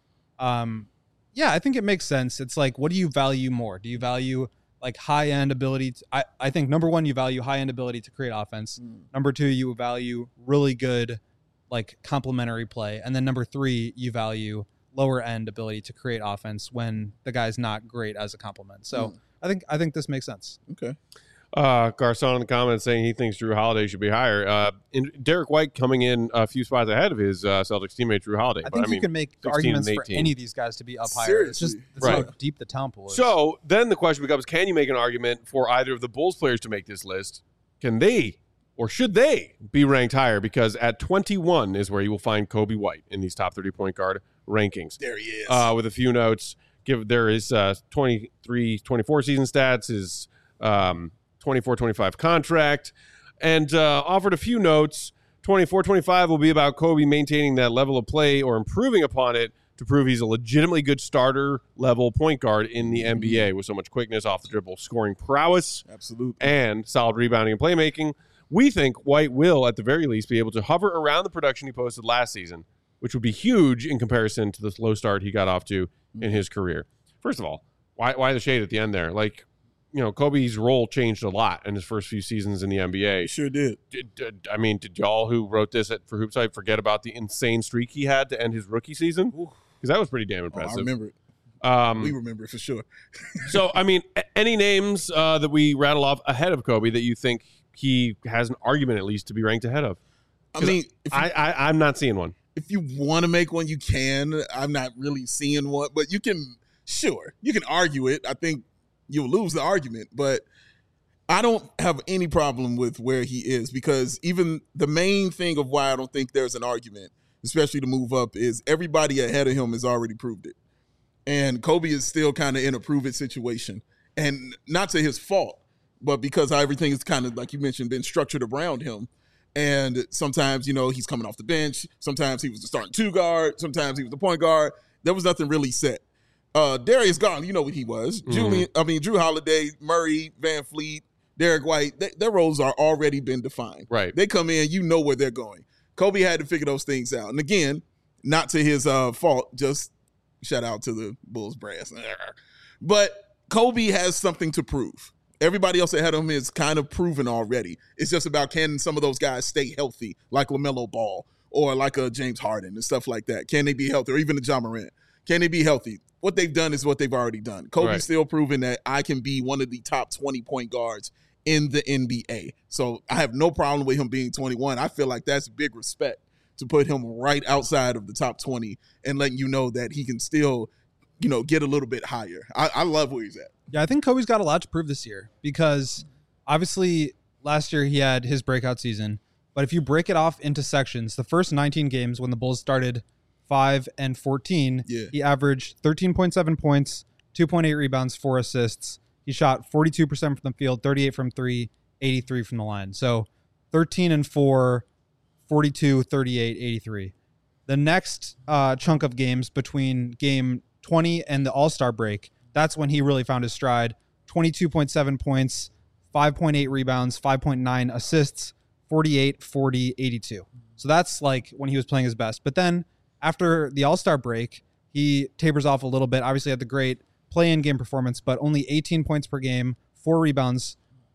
I think it makes sense. It's like, what do you value more? Do you value like high-end ability? I think number one, you value high-end ability to create offense. Number two, you value really good like complementary play. And then number three, you value lower-end ability to create offense when the guy's not great as a complement. So I think this makes sense. Okay. Garcon in the comments saying he thinks Drew Holiday should be higher. Derek White coming in a few spots ahead of his Celtics teammate Drew Holiday. I think you can make arguments for any of these guys to be up higher. It's just how deep the talent pool is. So then the question becomes, can you make an argument for either of the Bulls players to make this list? Can they or should they be ranked higher? Because at 21 is where you will find Coby White in these top 30 point guard rankings. There he is. With a few notes, there is 23-24 season stats, his 24-25 contract, and offered a few notes. 24-25 will be about Coby maintaining that level of play or improving upon it to prove he's a legitimately good starter level point guard in the NBA with so much quickness, off the dribble, scoring prowess, absolutely, and solid rebounding and playmaking. We think White will, at the very least, be able to hover around the production he posted last season, which would be huge in comparison to the slow start he got off to in his career. First of all, why the shade at the end there? Like, you know, Kobe's role changed a lot in his first few seasons in the NBA. Sure did. Did y'all who wrote this for Hoopsite forget about the insane streak he had to end his rookie season? Because that was pretty damn impressive. I remember it. We remember it for sure. So, I mean, any names that we rattle off ahead of Kobe that you think he has an argument at least to be ranked ahead of? I mean, I'm not seeing one. If you want to make one, you can. I'm not really seeing one, but you can argue it. I think you'll lose the argument, but I don't have any problem with where he is, because even the main thing of why I don't think there's an argument, especially to move up, is everybody ahead of him has already proved it. And Kobe is still kind of in a prove-it situation. And not to his fault, but because how everything is kind of, like you mentioned, been structured around him. And sometimes, you know, he's coming off the bench. Sometimes he was the starting two guard. Sometimes he was the point guard. There was nothing really set. Darius Garland, you know what he was. Drew Holiday, Murray, VanVleet, Derek White, their roles are already been defined. Right. They come in, you know where they're going. Kobe had to figure those things out. And again, not to his fault, just shout out to the Bulls brass. But Kobe has something to prove. Everybody else ahead of him is kind of proven already. It's just about, can some of those guys stay healthy, like LaMelo Ball or like a James Harden and stuff like that? Can they be healthy? Or even a John Morant. Can they be healthy? What they've done is what they've already done. Kobe's still proving that I can be one of the top 20 point guards in the NBA. So I have no problem with him being 21. I feel like that's big respect to put him right outside of the top 20 and letting you know that he can still, you know, get a little bit higher. I love where he's at. Yeah, I think Kobe's got a lot to prove this year, because obviously last year he had his breakout season. But if you break it off into sections, the first 19 games when the Bulls started 5-14, he averaged 13.7 points, 2.8 rebounds, 4 assists. He shot 42% from the field, 38 from 3, 83 from the line. So 13-4, 42, 38, 83. The next chunk of games between game 20 and the All-Star break, that's when he really found his stride. 22.7 points, 5.8 rebounds, 5.9 assists, 48, 40, 82. So that's like when he was playing his best. But then after the All-Star break, he tapers off a little bit. Obviously had the great play-in game performance, but only 18 points per game, 4 rebounds,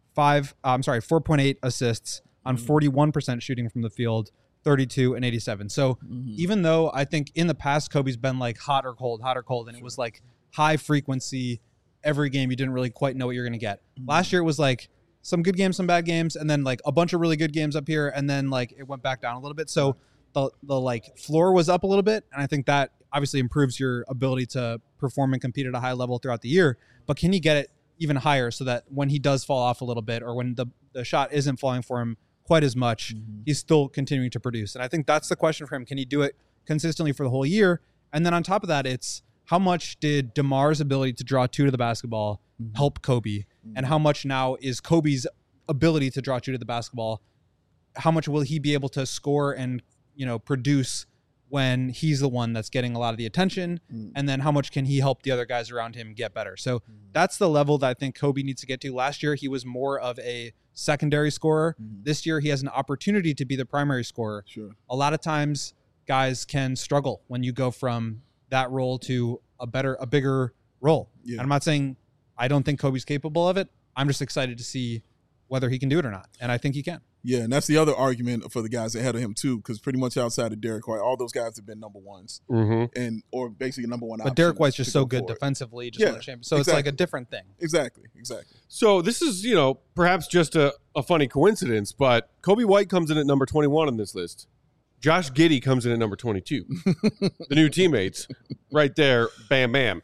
4.8 assists on 41% shooting from the field, 32 and 87. So even though I think in the past Kobe's been like hot or cold, and it was like high frequency every game, you didn't really quite know what you're going to get. Last year it was like some good games, some bad games, and then like a bunch of really good games up here, and then like it went back down a little bit. So the like floor was up a little bit, and I think that obviously improves your ability to perform and compete at a high level throughout the year. But can he get it even higher so that when he does fall off a little bit, or when the shot isn't falling for him quite as much, he's still continuing to produce? And I think that's the question for him. Can he do it consistently for the whole year? And then on top of that, it's how much did DeMar's ability to draw two to the basketball help Kobe? And how much now is Kobe's ability to draw two to the basketball how much will he be able to score and, produce when he's the one that's getting a lot of the attention, and then how much can he help the other guys around him get better. So that's the level that I think Kobe needs to get to. Last year, he was more of a secondary scorer. This year, he has an opportunity to be the primary scorer. Sure. A lot of times, guys can struggle when you go from that role to a bigger role. Yeah. And I'm not saying I don't think Kobe's capable of it. I'm just excited to see whether he can do it or not. And I think he can. Yeah, and that's the other argument for the guys ahead of him too, because pretty much outside of Derek White, all those guys have been number ones, or basically number one. But Derek White's just so good defensively, just won a championship. So it's like a different thing. Exactly. So this is, perhaps just a funny coincidence, but Kobe White comes in at number 21 on this list. Josh Giddey comes in at number 22. The new teammates, right there, bam, bam.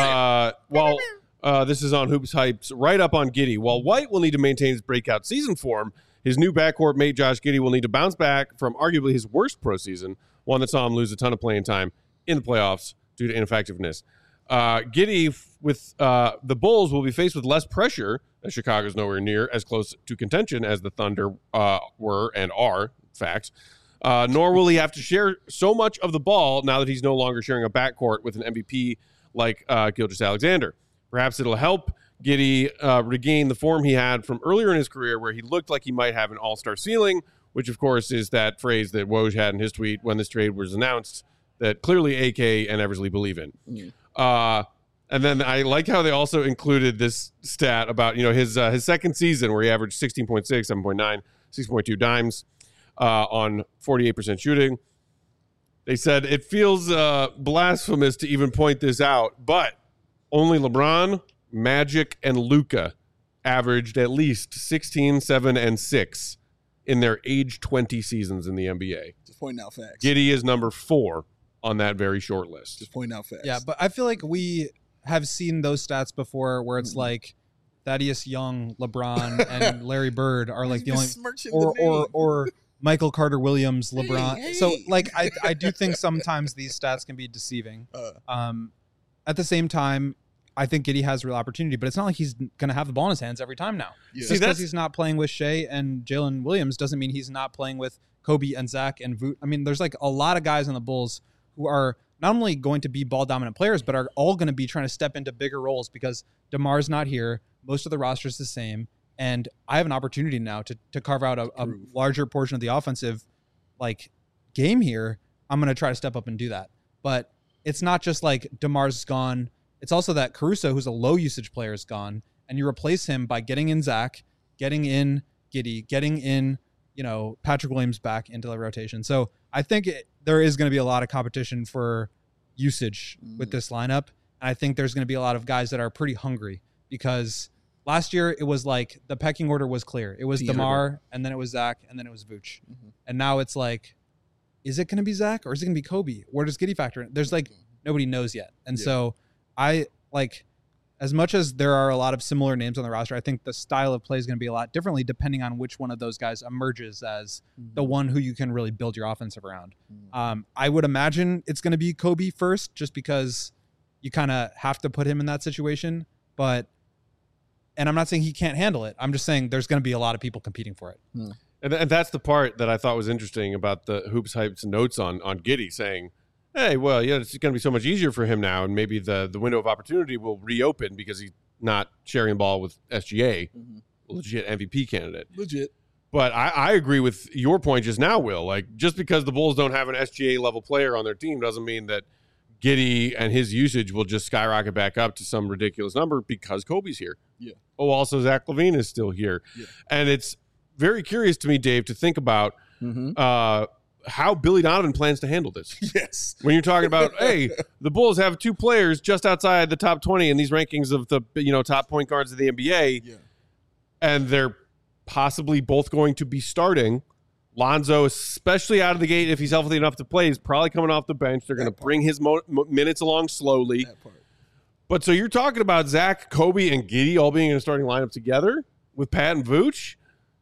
This is on Hoops Hype's right up on Giddey. While White will need to maintain his breakout season form, his new backcourt mate, Josh Giddey, will need to bounce back from arguably his worst pro season, one that saw him lose a ton of playing time in the playoffs due to ineffectiveness. Giddey, with the Bulls, will be faced with less pressure, as Chicago's nowhere near as close to contention as the Thunder were and are, facts. Nor will he have to share so much of the ball now that he's no longer sharing a backcourt with an MVP like Gilgeous-Alexander. Perhaps it'll help Giddey regain the form he had from earlier in his career where he looked like he might have an all-star ceiling, which, of course, is that phrase that Woj had in his tweet when this trade was announced that clearly AK and Eversley believe in. And then I like how they also included this stat about, his second season where he averaged 16.6, 7.9, 6.2 dimes on 48% shooting. They said it feels blasphemous to even point this out, but only LeBron, Magic, and Luka averaged at least 16, 7, and 6 in their age 20 seasons in the NBA. Just pointing out facts. Giddey is number 4 on that very short list. Just pointing out facts. Yeah, but I feel like we have seen those stats before where it's like Thaddeus Young, LeBron, and Larry Bird are like the only or Michael Carter Williams, LeBron. Hey. So like I do think sometimes these stats can be deceiving. At the same time, I think Giddey has real opportunity, but it's not like he's going to have the ball in his hands every time now. Yeah. Just because he's not playing with Shea and Jalen Williams doesn't mean he's not playing with Kobe and Zach and Vooch. I mean, there's like a lot of guys on the Bulls who are not only going to be ball dominant players, but are all going to be trying to step into bigger roles because DeMar's not here. Most of the roster is the same. And I have an opportunity now to carve out a larger portion of the offensive game here. I'm going to try to step up and do that. But it's not just like DeMar's gone. It's also that Caruso, who's a low usage player, is gone. And you replace him by getting in Zach, getting in Giddey, getting in, Patrick Williams back into the rotation. So I think there is going to be a lot of competition for usage with this lineup. And I think there's going to be a lot of guys that are pretty hungry because last year it was like the pecking order was clear. It was DeMar, and then it was Zach, and then it was Vooch. And now it's like, is it going to be Zach or is it going to be Kobe? Where does Giddey factor in? There's nobody knows yet. And so I as much as there are a lot of similar names on the roster, I think the style of play is going to be a lot differently depending on which one of those guys emerges as the one who you can really build your offensive around. I would imagine it's going to be Kobe first, just because you kind of have to put him in that situation. And I'm not saying he can't handle it. I'm just saying there's going to be a lot of people competing for it. And that's the part that I thought was interesting about the Hoops Hype's notes on Giddey saying, hey, well, it's going to be so much easier for him now, and maybe the window of opportunity will reopen because he's not sharing the ball with SGA, legit MVP candidate. Legit. But I agree with your point just now, Will. Like, just because the Bulls don't have an SGA-level player on their team doesn't mean that Giddey and his usage will just skyrocket back up to some ridiculous number because Kobe's here. Yeah. Oh, also Zach LaVine is still here. Yeah. And it's very curious to me, Dave, to think about how Billy Donovan plans to handle this. Yes. When you're talking about, hey, the Bulls have 2 players just outside the top 20 in these rankings of the top point guards of the NBA, and they're possibly both going to be starting. Lonzo, especially out of the gate, if he's healthy enough to play, is probably coming off the bench. They're going to bring his minutes along slowly. But so you're talking about Zach, Kobe, and Giddey all being in a starting lineup together with Pat and Vooch?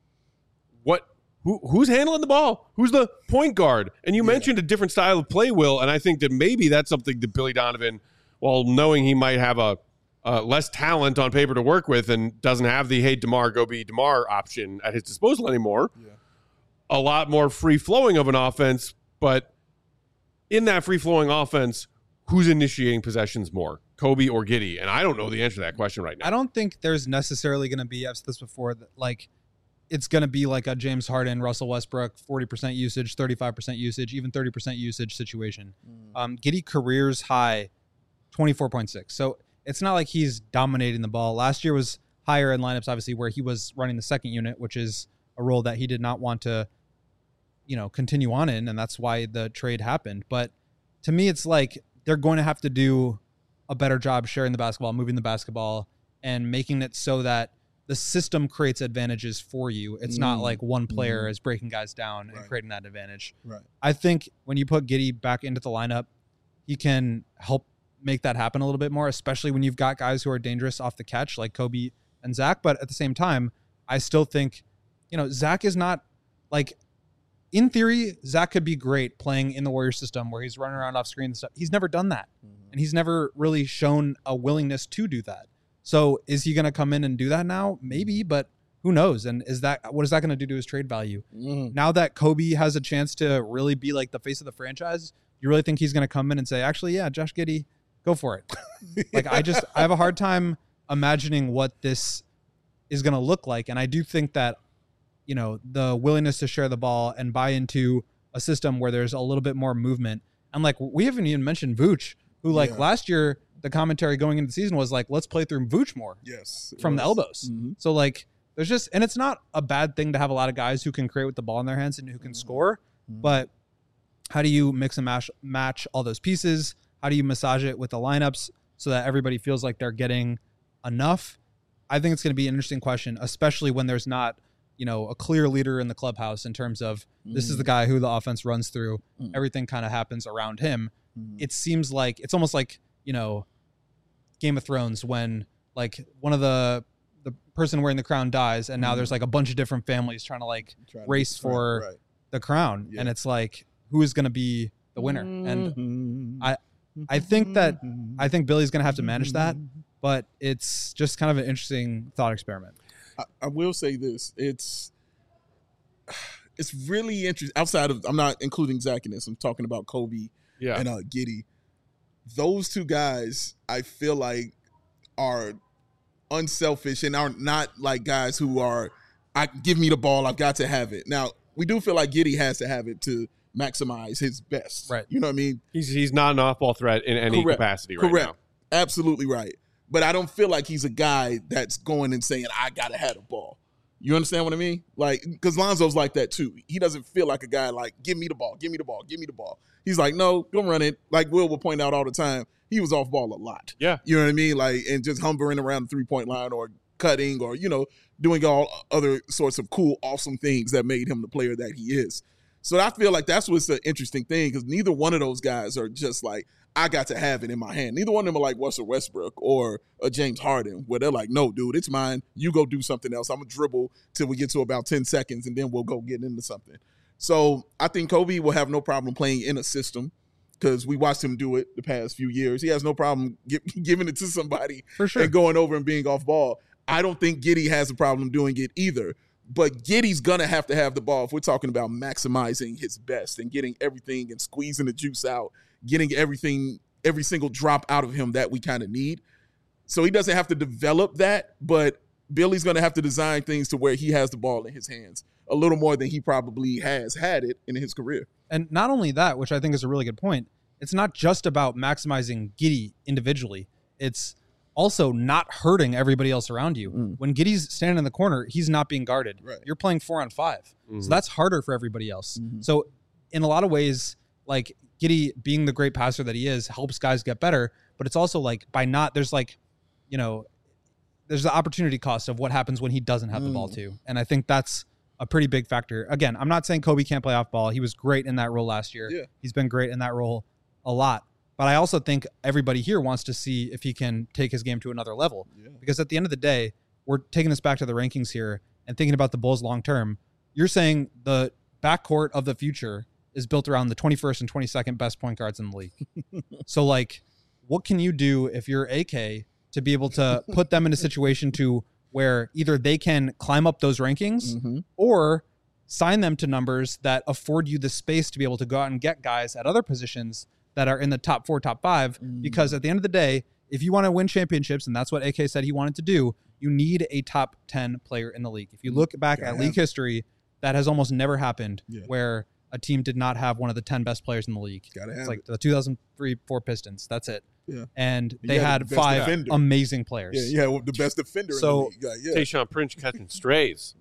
Who's handling the ball? Who's the point guard? And you mentioned a different style of play, Will, and I think that maybe that's something that Billy Donovan, while knowing he might have a less talent on paper to work with and doesn't have the, hey, DeMar, go be DeMar option at his disposal anymore, a lot more free-flowing of an offense, but in that free-flowing offense, who's initiating possessions more, Kobe or Giddey? And I don't know the answer to that question right now. I don't think there's necessarily going to be, I've said this before, that like it's going to be like a James Harden, Russell Westbrook, 40% usage, 35% usage, even 30% usage situation. Giddey careers high 24.6. So it's not like he's dominating the ball. Last year was higher in lineups, obviously, where he was running the second unit, which is a role that he did not want to, continue on in, and that's why the trade happened. But to me, it's like they're going to have to do a better job sharing the basketball, moving the basketball, and making it so that the system creates advantages for you. It's not like one player is breaking guys down and creating that advantage. Right. I think when you put Giddey back into the lineup, he can help make that happen a little bit more, especially when you've got guys who are dangerous off the catch like Kobe and Zach. But at the same time, I still think, Zach is not like, in theory, Zach could be great playing in the Warrior system where he's running around off screen and stuff. He's never done that. And he's never really shown a willingness to do that. So is he going to come in and do that now? Maybe, but who knows? And what is that going to do to his trade value? Now that Kobe has a chance to really be like the face of the franchise, you really think he's going to come in and say, actually, yeah, Josh Giddey, go for it. Like, I have a hard time imagining what this is going to look like. And I do think that, the willingness to share the ball and buy into a system where there's a little bit more movement. And like, we haven't even mentioned Vooch, who last year, the commentary going into the season was like, let's play through Vooch more. Yes. From the elbows. So like, there's just, and it's not a bad thing to have a lot of guys who can create with the ball in their hands and who can score, but how do you mix and match all those pieces? How do you massage it with the lineups so that everybody feels like they're getting enough? I think it's going to be an interesting question, especially when there's not, a clear leader in the clubhouse in terms of this is the guy who the offense runs through. Everything kind of happens around him. It seems like it's almost like, Game of Thrones when like one of the person wearing the crown dies and now there's like a bunch of different families trying to race for the crown. And it's like, who is going to be the winner? And I think Billy's going to have to manage that, but it's just kind of an interesting thought experiment. I will say this. It's really interesting. Outside of, I'm not including Zach in this. I'm talking about Kobe and Giddey. Those two guys, I feel like, are unselfish and are not like guys who are, give me the ball, I've got to have it. Now, we do feel like Giddey has to have it to maximize his best. Right. You know what I mean? He's not an off-ball threat in any capacity right now. Absolutely right. But I don't feel like he's a guy that's going and saying, I got to have the ball. You understand what I mean? Like, because Lonzo's like that too. He doesn't feel like a guy like, give me the ball, give me the ball, give me the ball. He's like, no, go run it. Like Will point out all the time, he was off ball a lot. Yeah. You know what I mean? Like, and just humbering around the three-point line or cutting or, doing all other sorts of cool, awesome things that made him the player that he is. So I feel like that's what's an interesting thing because neither one of those guys are just like, I got to have it in my hand. Neither one of them are like Russell Westbrook or a James Harden, where they're like, no, dude, it's mine. You go do something else. I'm going to dribble till we get to about 10 seconds, and then we'll go get into something. So I think Kobe will have no problem playing in a system because we watched him do it the past few years. He has no problem giving it to somebody for sure and going over and being off ball. I don't think Giddey has a problem doing it either. But Giddey's going to have the ball if we're talking about maximizing his best and getting everything and squeezing the juice out, getting everything, every single drop out of him that we kind of need. So he doesn't have to develop that, but Billy's going to have to design things to where he has the ball in his hands a little more than he probably has had it in his career. And not only that, which I think is a really good point, it's not just about maximizing Giddey individually. It's also not hurting everybody else around you. When Giddey's standing in the corner, he's not being guarded. Right. You're playing 4-on-5. So that's harder for everybody else. So in a lot of ways, like Giddey being the great passer that he is helps guys get better, but it's also like by not, there's like, there's the opportunity cost of what happens when he doesn't have the ball too. And I think that's a pretty big factor. Again, I'm not saying Kobe can't play off ball. He was great in that role last year. Yeah. He's been great in that role a lot. But I also think everybody here wants to see if he can take his game to another level. Yeah. Because at the end of the day, we're taking this back to the rankings here and thinking about the Bulls long term. You're saying the backcourt of the future is built around the 21st and 22nd best point guards in the league. So, like, what can you do if you're AK to be able to put them in a situation to where either they can climb up those rankings or sign them to numbers that afford you the space to be able to go out and get guys at other positions that are in the top 4, top 5. Because at the end of the day, if you want to win championships, and that's what AK said he wanted to do, you need a top 10 player in the league. If you look back at league history, that has almost never happened where a team did not have one of the 10 best players in the league. It's like the 2003-4 Pistons. That's it. Yeah. And they had 5 amazing players. Yeah, the best defender in the league. Tayshaun Prince catching strays.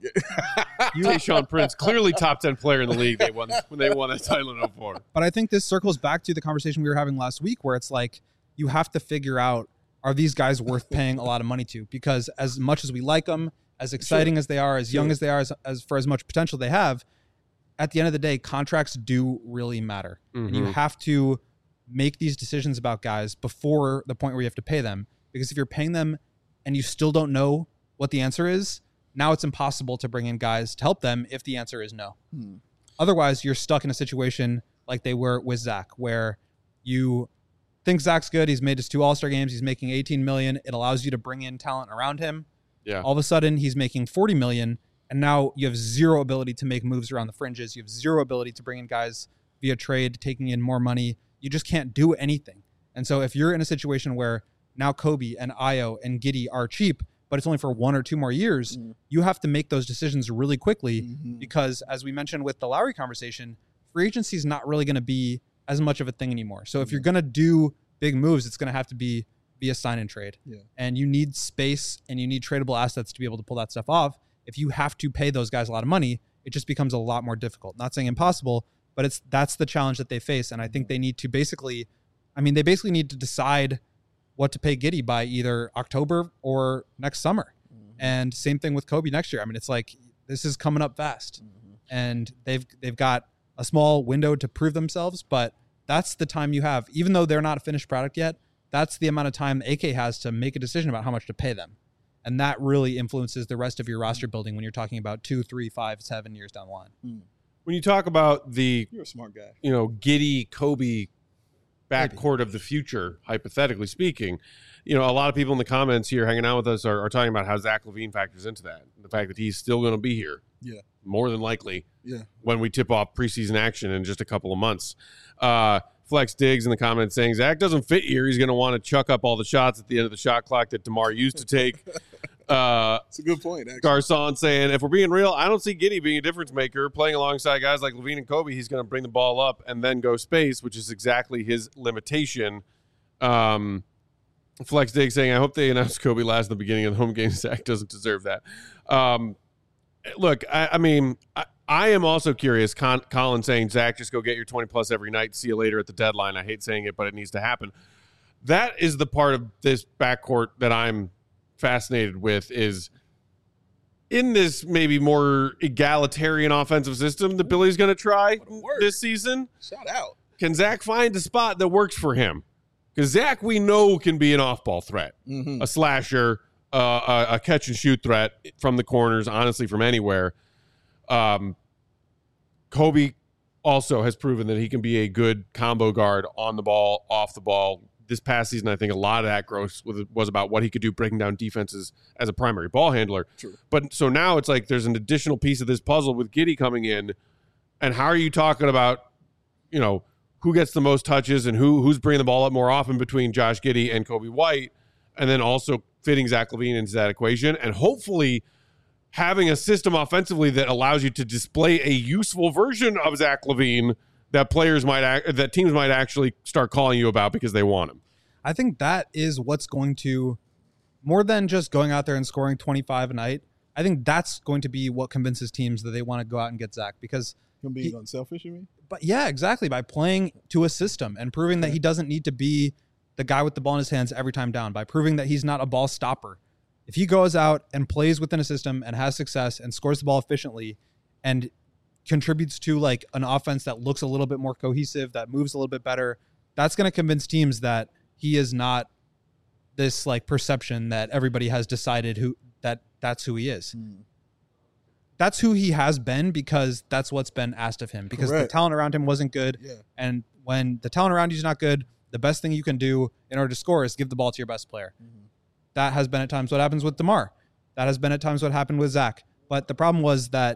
Tayshaun Prince, clearly top 10 player in the league when they won that title in 04. But I think this circles back to the conversation we were having last week where it's like you have to figure out, are these guys worth paying a lot of money to? Because as much as we like them, as exciting as they are, as young as they are, as for as much potential they have, at the end of the day, contracts do really matter. And you have to make these decisions about guys before the point where you have to pay them. Because if you're paying them and you still don't know what the answer is, now it's impossible to bring in guys to help them if the answer is no. Otherwise, you're stuck in a situation like they were with Zach, where you think Zach's good. He's made his 2 All-Star games. He's making $18 million. It allows you to bring in talent around him. Yeah. All of a sudden, he's making $40 million. And now you have zero ability to make moves around the fringes. You have zero ability to bring in guys via trade, taking in more money. You just can't do anything. And so if you're in a situation where now Kobe and Ayo and Giddey are cheap, but it's only for 1 or 2 more years, you have to make those decisions really quickly because, as we mentioned with the Lowry conversation, free agency is not really going to be as much of a thing anymore. So if you're going to do big moves, it's going to have to be a sign and trade. And you need space and you need tradable assets to be able to pull that stuff off. If you have to pay those guys a lot of money, it just becomes a lot more difficult. Not saying impossible, but that's the challenge that they face. And I think they need to basically need to decide what to pay Giddey by either October or next summer. And same thing with Kobe next year. I mean, it's like, this is coming up fast and they've got a small window to prove themselves, but that's the time you have, even though they're not a finished product yet, that's the amount of time AK has to make a decision about how much to pay them. And that really influences the rest of your roster building when you're talking about 2, 3, 5, 7 years down the line. When you talk about you're a smart guy. Giddey, Kobe backcourt of the future, hypothetically speaking, a lot of people in the comments here hanging out with us are talking about how Zach LaVine factors into that. The fact that he's still going to be here. Yeah. More than likely. Yeah. When we tip off preseason action in just a couple of months. Flex Diggs in the comments saying Zach doesn't fit here. He's going to want to chuck up all the shots at the end of the shot clock that DeMar used to take. It's a good point, actually. Garcon saying, if we're being real, I don't see Giddey being a difference maker. Playing alongside guys like LaVine and Kobe, he's going to bring the ball up and then go space, which is exactly his limitation. Flex Diggs saying, I hope they announce Kobe last in the beginning of the home game. Zach doesn't deserve that. Look, I am also curious. Colin saying, Zach, just go get your 20-plus every night. See you later at the deadline. I hate saying it, but it needs to happen. That is the part of this backcourt that I'm fascinated with, is in this maybe more egalitarian offensive system that Billy's going to try this season. Shout out. Can Zach find a spot that works for him? Because Zach, we know, can be an off-ball threat, a slasher, a catch-and-shoot threat from the corners, honestly, from anywhere. Kobe also has proven that he can be a good combo guard on the ball, off the ball. This past season, I think a lot of that growth was about what he could do breaking down defenses as a primary ball handler. True. But so now it's like there's an additional piece of this puzzle with Giddey coming in. And how are you talking about, who gets the most touches and who's bringing the ball up more often between Josh Giddey and Kobe White, and then also fitting Zach LaVine into that equation, and hopefully having a system offensively that allows you to display a useful version of Zach LaVine that that teams might actually start calling you about because they want him. I think that is what's going to, more than just going out there and scoring 25 a night, I think that's going to be what convinces teams that they want to go out and get Zach, because he'll be unselfish, you mean? But yeah, exactly. By playing to a system and proving that he doesn't need to be the guy with the ball in his hands every time down, by proving that he's not a ball stopper. If he goes out and plays within a system and has success and scores the ball efficiently and contributes to like an offense that looks a little bit more cohesive, that moves a little bit better, that's going to convince teams that he is not this like perception that everybody has decided that's who he is. That's who he has been, because that's what's been asked of him, because the talent around him wasn't good. Yeah. And when the talent around you is not good, the best thing you can do in order to score is give the ball to your best player. That has been at times what happens with DeMar. That has been at times what happened with Zach. But the problem was that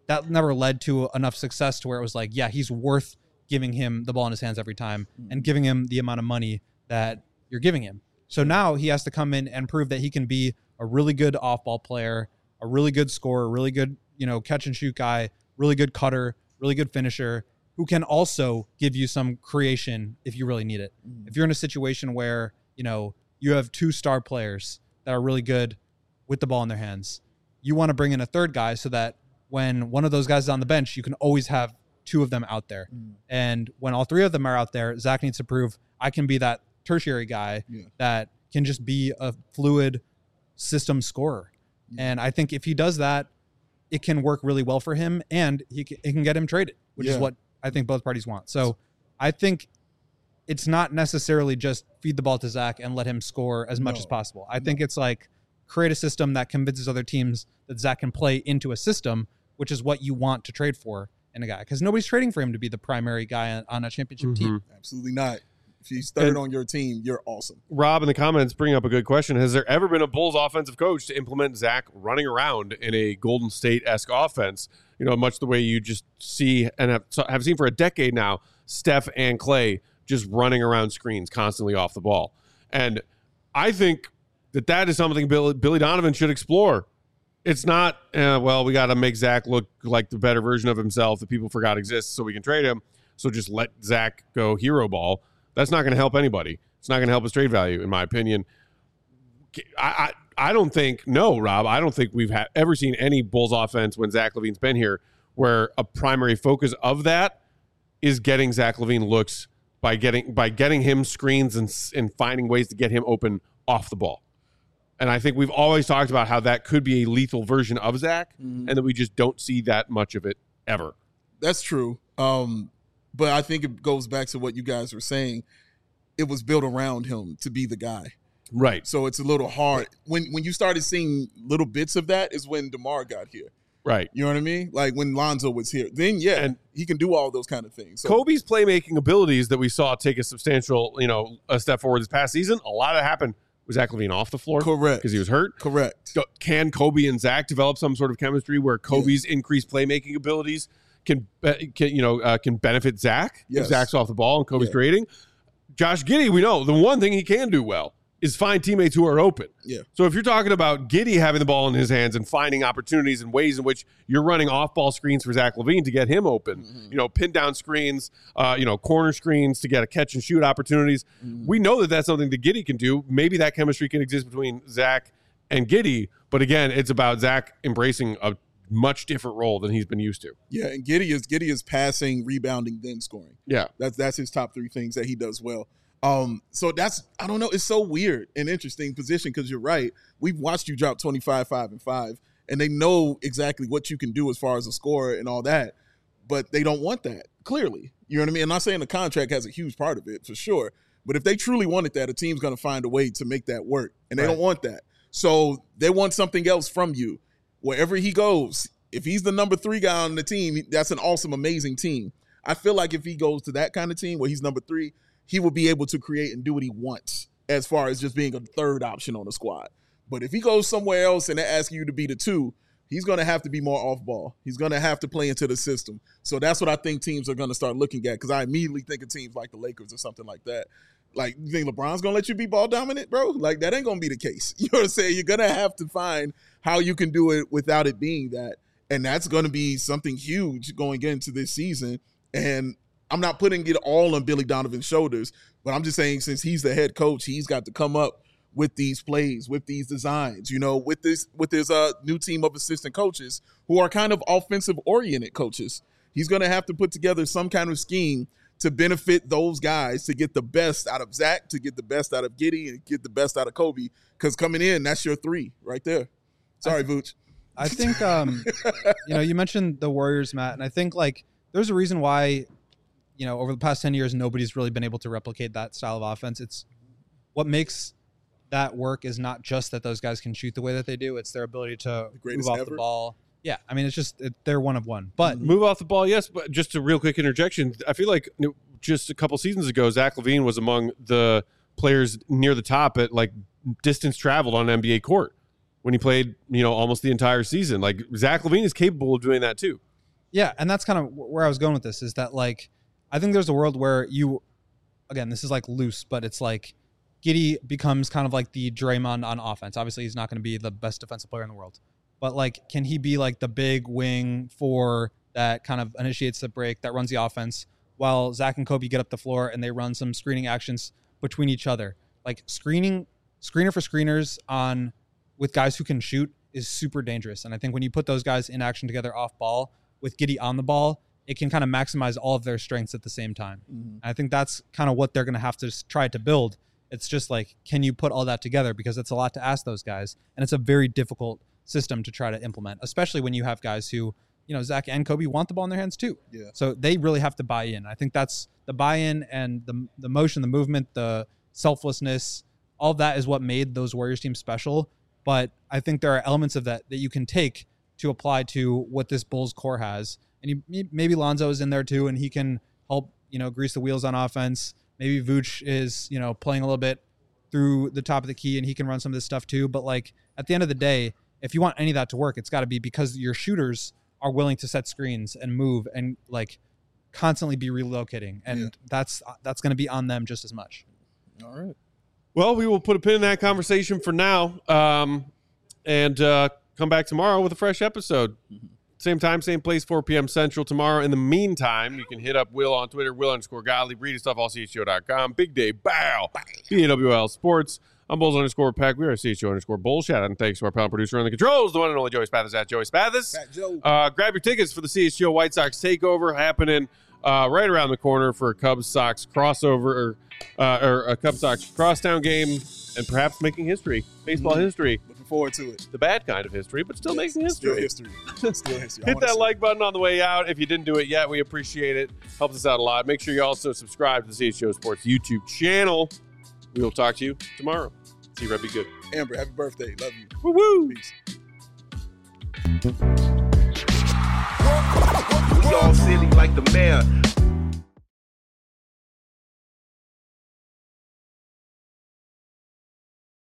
that never led to enough success to where it was like, yeah, he's worth giving him the ball in his hands every time and giving him the amount of money that you're giving him. So now he has to come in and prove that he can be a really good off-ball player, a really good scorer, really good, catch and shoot guy, really good cutter, really good finisher, who can also give you some creation if you really need it. If you're in a situation where, you have 2 star players that are really good with the ball in their hands, you want to bring in a third guy so that when one of those guys is on the bench, you can always have 2 of them out there. And when all 3 of them are out there, Zach needs to prove I can be that tertiary guy that can just be a fluid system scorer. And I think if he does that, it can work really well for him, and it can get him traded, which is what I think both parties want. So I think it's not necessarily just feed the ball to Zach and let him score as much as possible. I think it's like create a system that convinces other teams that Zach can play into a system, which is what you want to trade for in a guy, because nobody's trading for him to be the primary guy on a championship team. Absolutely not. If he's third on your team, you're awesome. Rob in the comments bring up a good question. Has there ever been a Bulls offensive coach to implement Zach running around in a Golden State-esque offense? Much the way you just see and have seen for a decade now, Steph and Clay just running around screens constantly off the ball. And I think that is something Billy Donovan should explore. It's not, we got to make Zach look like the better version of himself that people forgot exists so we can trade him. So just let Zach go hero ball. That's not going to help anybody. It's not going to help his trade value, in my opinion. I don't think, Rob, I don't think we've ever seen any Bulls offense when Zach LaVine's been here where a primary focus of that is getting Zach LaVine looks by getting him screens and finding ways to get him open off the ball. And I think we've always talked about how that could be a lethal version of Zach, and that we just don't see that much of it ever. That's true. But I think it goes back to what you guys were saying. It was built around him to be the guy. Right. So it's a little hard. When you started seeing little bits of that is when DeMar got here. Right. You know what I mean? Like when Lonzo was here. Then, and he can do all those kind of things. So, Kobe's playmaking abilities that we saw take a substantial, a step forward this past season, a lot of it happened with Zach LaVine off the floor. Correct. Because he was hurt. Correct. Can Kobe and Zach develop some sort of chemistry where Kobe's increased playmaking abilities can benefit Zach if Zach's off the ball and Kobe's creating? Josh Giddey, we know the one thing he can do well is find teammates who are open. Yeah. So if you're talking about Giddey having the ball in his hands and finding opportunities and ways in which you're running off-ball screens for Zach LaVine to get him open, pin down screens, corner screens to get a catch and shoot opportunities, we know that that's something that Giddey can do. Maybe that chemistry can exist between Zach and Giddey, but again, it's about Zach embracing a much different role than he's been used to. Yeah, and Giddey is passing, rebounding, then scoring. Yeah. That's his top 3 things that he does well. So that's, I don't know, it's so weird and interesting position because you're right. We've watched you drop 25, 5, and 5, and they know exactly what you can do as far as a scorer and all that, but they don't want that, clearly. You know what I mean? I'm not saying the contract has a huge part of it, for sure, but if they truly wanted that, a team's going to find a way to make that work, and they don't want that. So they want something else from you. Wherever he goes, if he's the number 3 guy on the team, that's an awesome, amazing team. I feel like if he goes to that kind of team where he's number 3, he will be able to create and do what he wants as far as just being a third option on the squad. But if he goes somewhere else and they're asking you to be the 2, he's going to have to be more off ball. He's going to have to play into the system. So that's what I think teams are going to start looking at, because I immediately think of teams like the Lakers or something like that. Like, you think LeBron's going to let you be ball dominant, bro? Like, that ain't going to be the case. You know what I'm saying? You're going to have to find how you can do it without it being that. And that's going to be something huge going into this season. And I'm not putting it all on Billy Donovan's shoulders, but I'm just saying since he's the head coach, he's got to come up with these plays, with these designs, with his new team of assistant coaches who are kind of offensive-oriented coaches. He's going to have to put together some kind of scheme to benefit those guys, to get the best out of Zach, to get the best out of Giddey, and get the best out of Kobe, because coming in, that's your 3 right there. Sorry, Vooch. I think, you mentioned the Warriors, Matt, and I think, there's a reason why over the past 10 years, nobody's really been able to replicate that style of offense. It's what makes that work is not just that those guys can shoot the way that they do. It's their ability to move off the ball. Yeah, I mean, it's just they're one of one. But move off the ball, yes. But just a real quick interjection. I feel like just a couple seasons ago, Zach LaVine was among the players near the top at distance traveled on an NBA court when he played, almost the entire season. Zach LaVine is capable of doing that too. Yeah, and that's kind of where I was going with this, is that, like, I think there's a world where again, this is like loose, but it's like Giddey becomes kind of like the Draymond on offense. Obviously, he's not going to be the best defensive player in the world, but like, can he be like the big wing for that kind of initiates the break, that runs the offense, while Zach and Kobe get up the floor and they run some screening actions between each other? Like, screener for screeners with guys who can shoot is super dangerous. And I think when you put those guys in action together off ball with Giddey on the ball, it can kind of maximize all of their strengths at the same time. Mm-hmm. And I think that's kind of what they're going to have to try to build. It's just like, can you put all that together? Because it's a lot to ask those guys. And it's a very difficult system to try to implement, especially when you have guys who, Zach and Kobe want the ball in their hands too. Yeah. So they really have to buy in. I think that's the buy-in and the motion, the movement, the selflessness, all of that is what made those Warriors teams special. But I think there are elements of that you can take to apply to what this Bulls core has. And maybe Lonzo is in there too, and he can help, grease the wheels on offense. Maybe Vooch is, playing a little bit through the top of the key, and he can run some of this stuff too. But like, at the end of the day, if you want any of that to work, it's got to be because your shooters are willing to set screens and move and like constantly be relocating. And that's going to be on them just as much. All right. Well, we will put a pin in that conversation for now, and come back tomorrow with a fresh episode. Mm-hmm. Same time, same place, 4 p.m. Central tomorrow. In the meantime, you can hit up Will on Twitter, Will_Gottlieb, read his stuff, allchgo.com. Big Day, bow, BAWL Sports. I'm Bulls_Peck. We are CHO_Bull. Shout out and thanks to our panel producer on the controls, the one and only Joey Spathis at Joey Spathis. Fat Joe. Grab your tickets for the CHGO White Sox takeover happening right around the corner for a Cubs Sox crossover or a Cubs Sox crosstown game, and perhaps making history, baseball history. Looking forward to it. The bad kind of history, but still making history. Still history. Hit that like button on the way out. If you didn't do it yet, we appreciate it. Helps us out a lot. Make sure you also subscribe to the CHGO Sports YouTube channel. We will talk to you tomorrow. See you, Red. Be good. Amber, happy birthday. Love you. Woo-woo. Peace. We all silly like the mayor.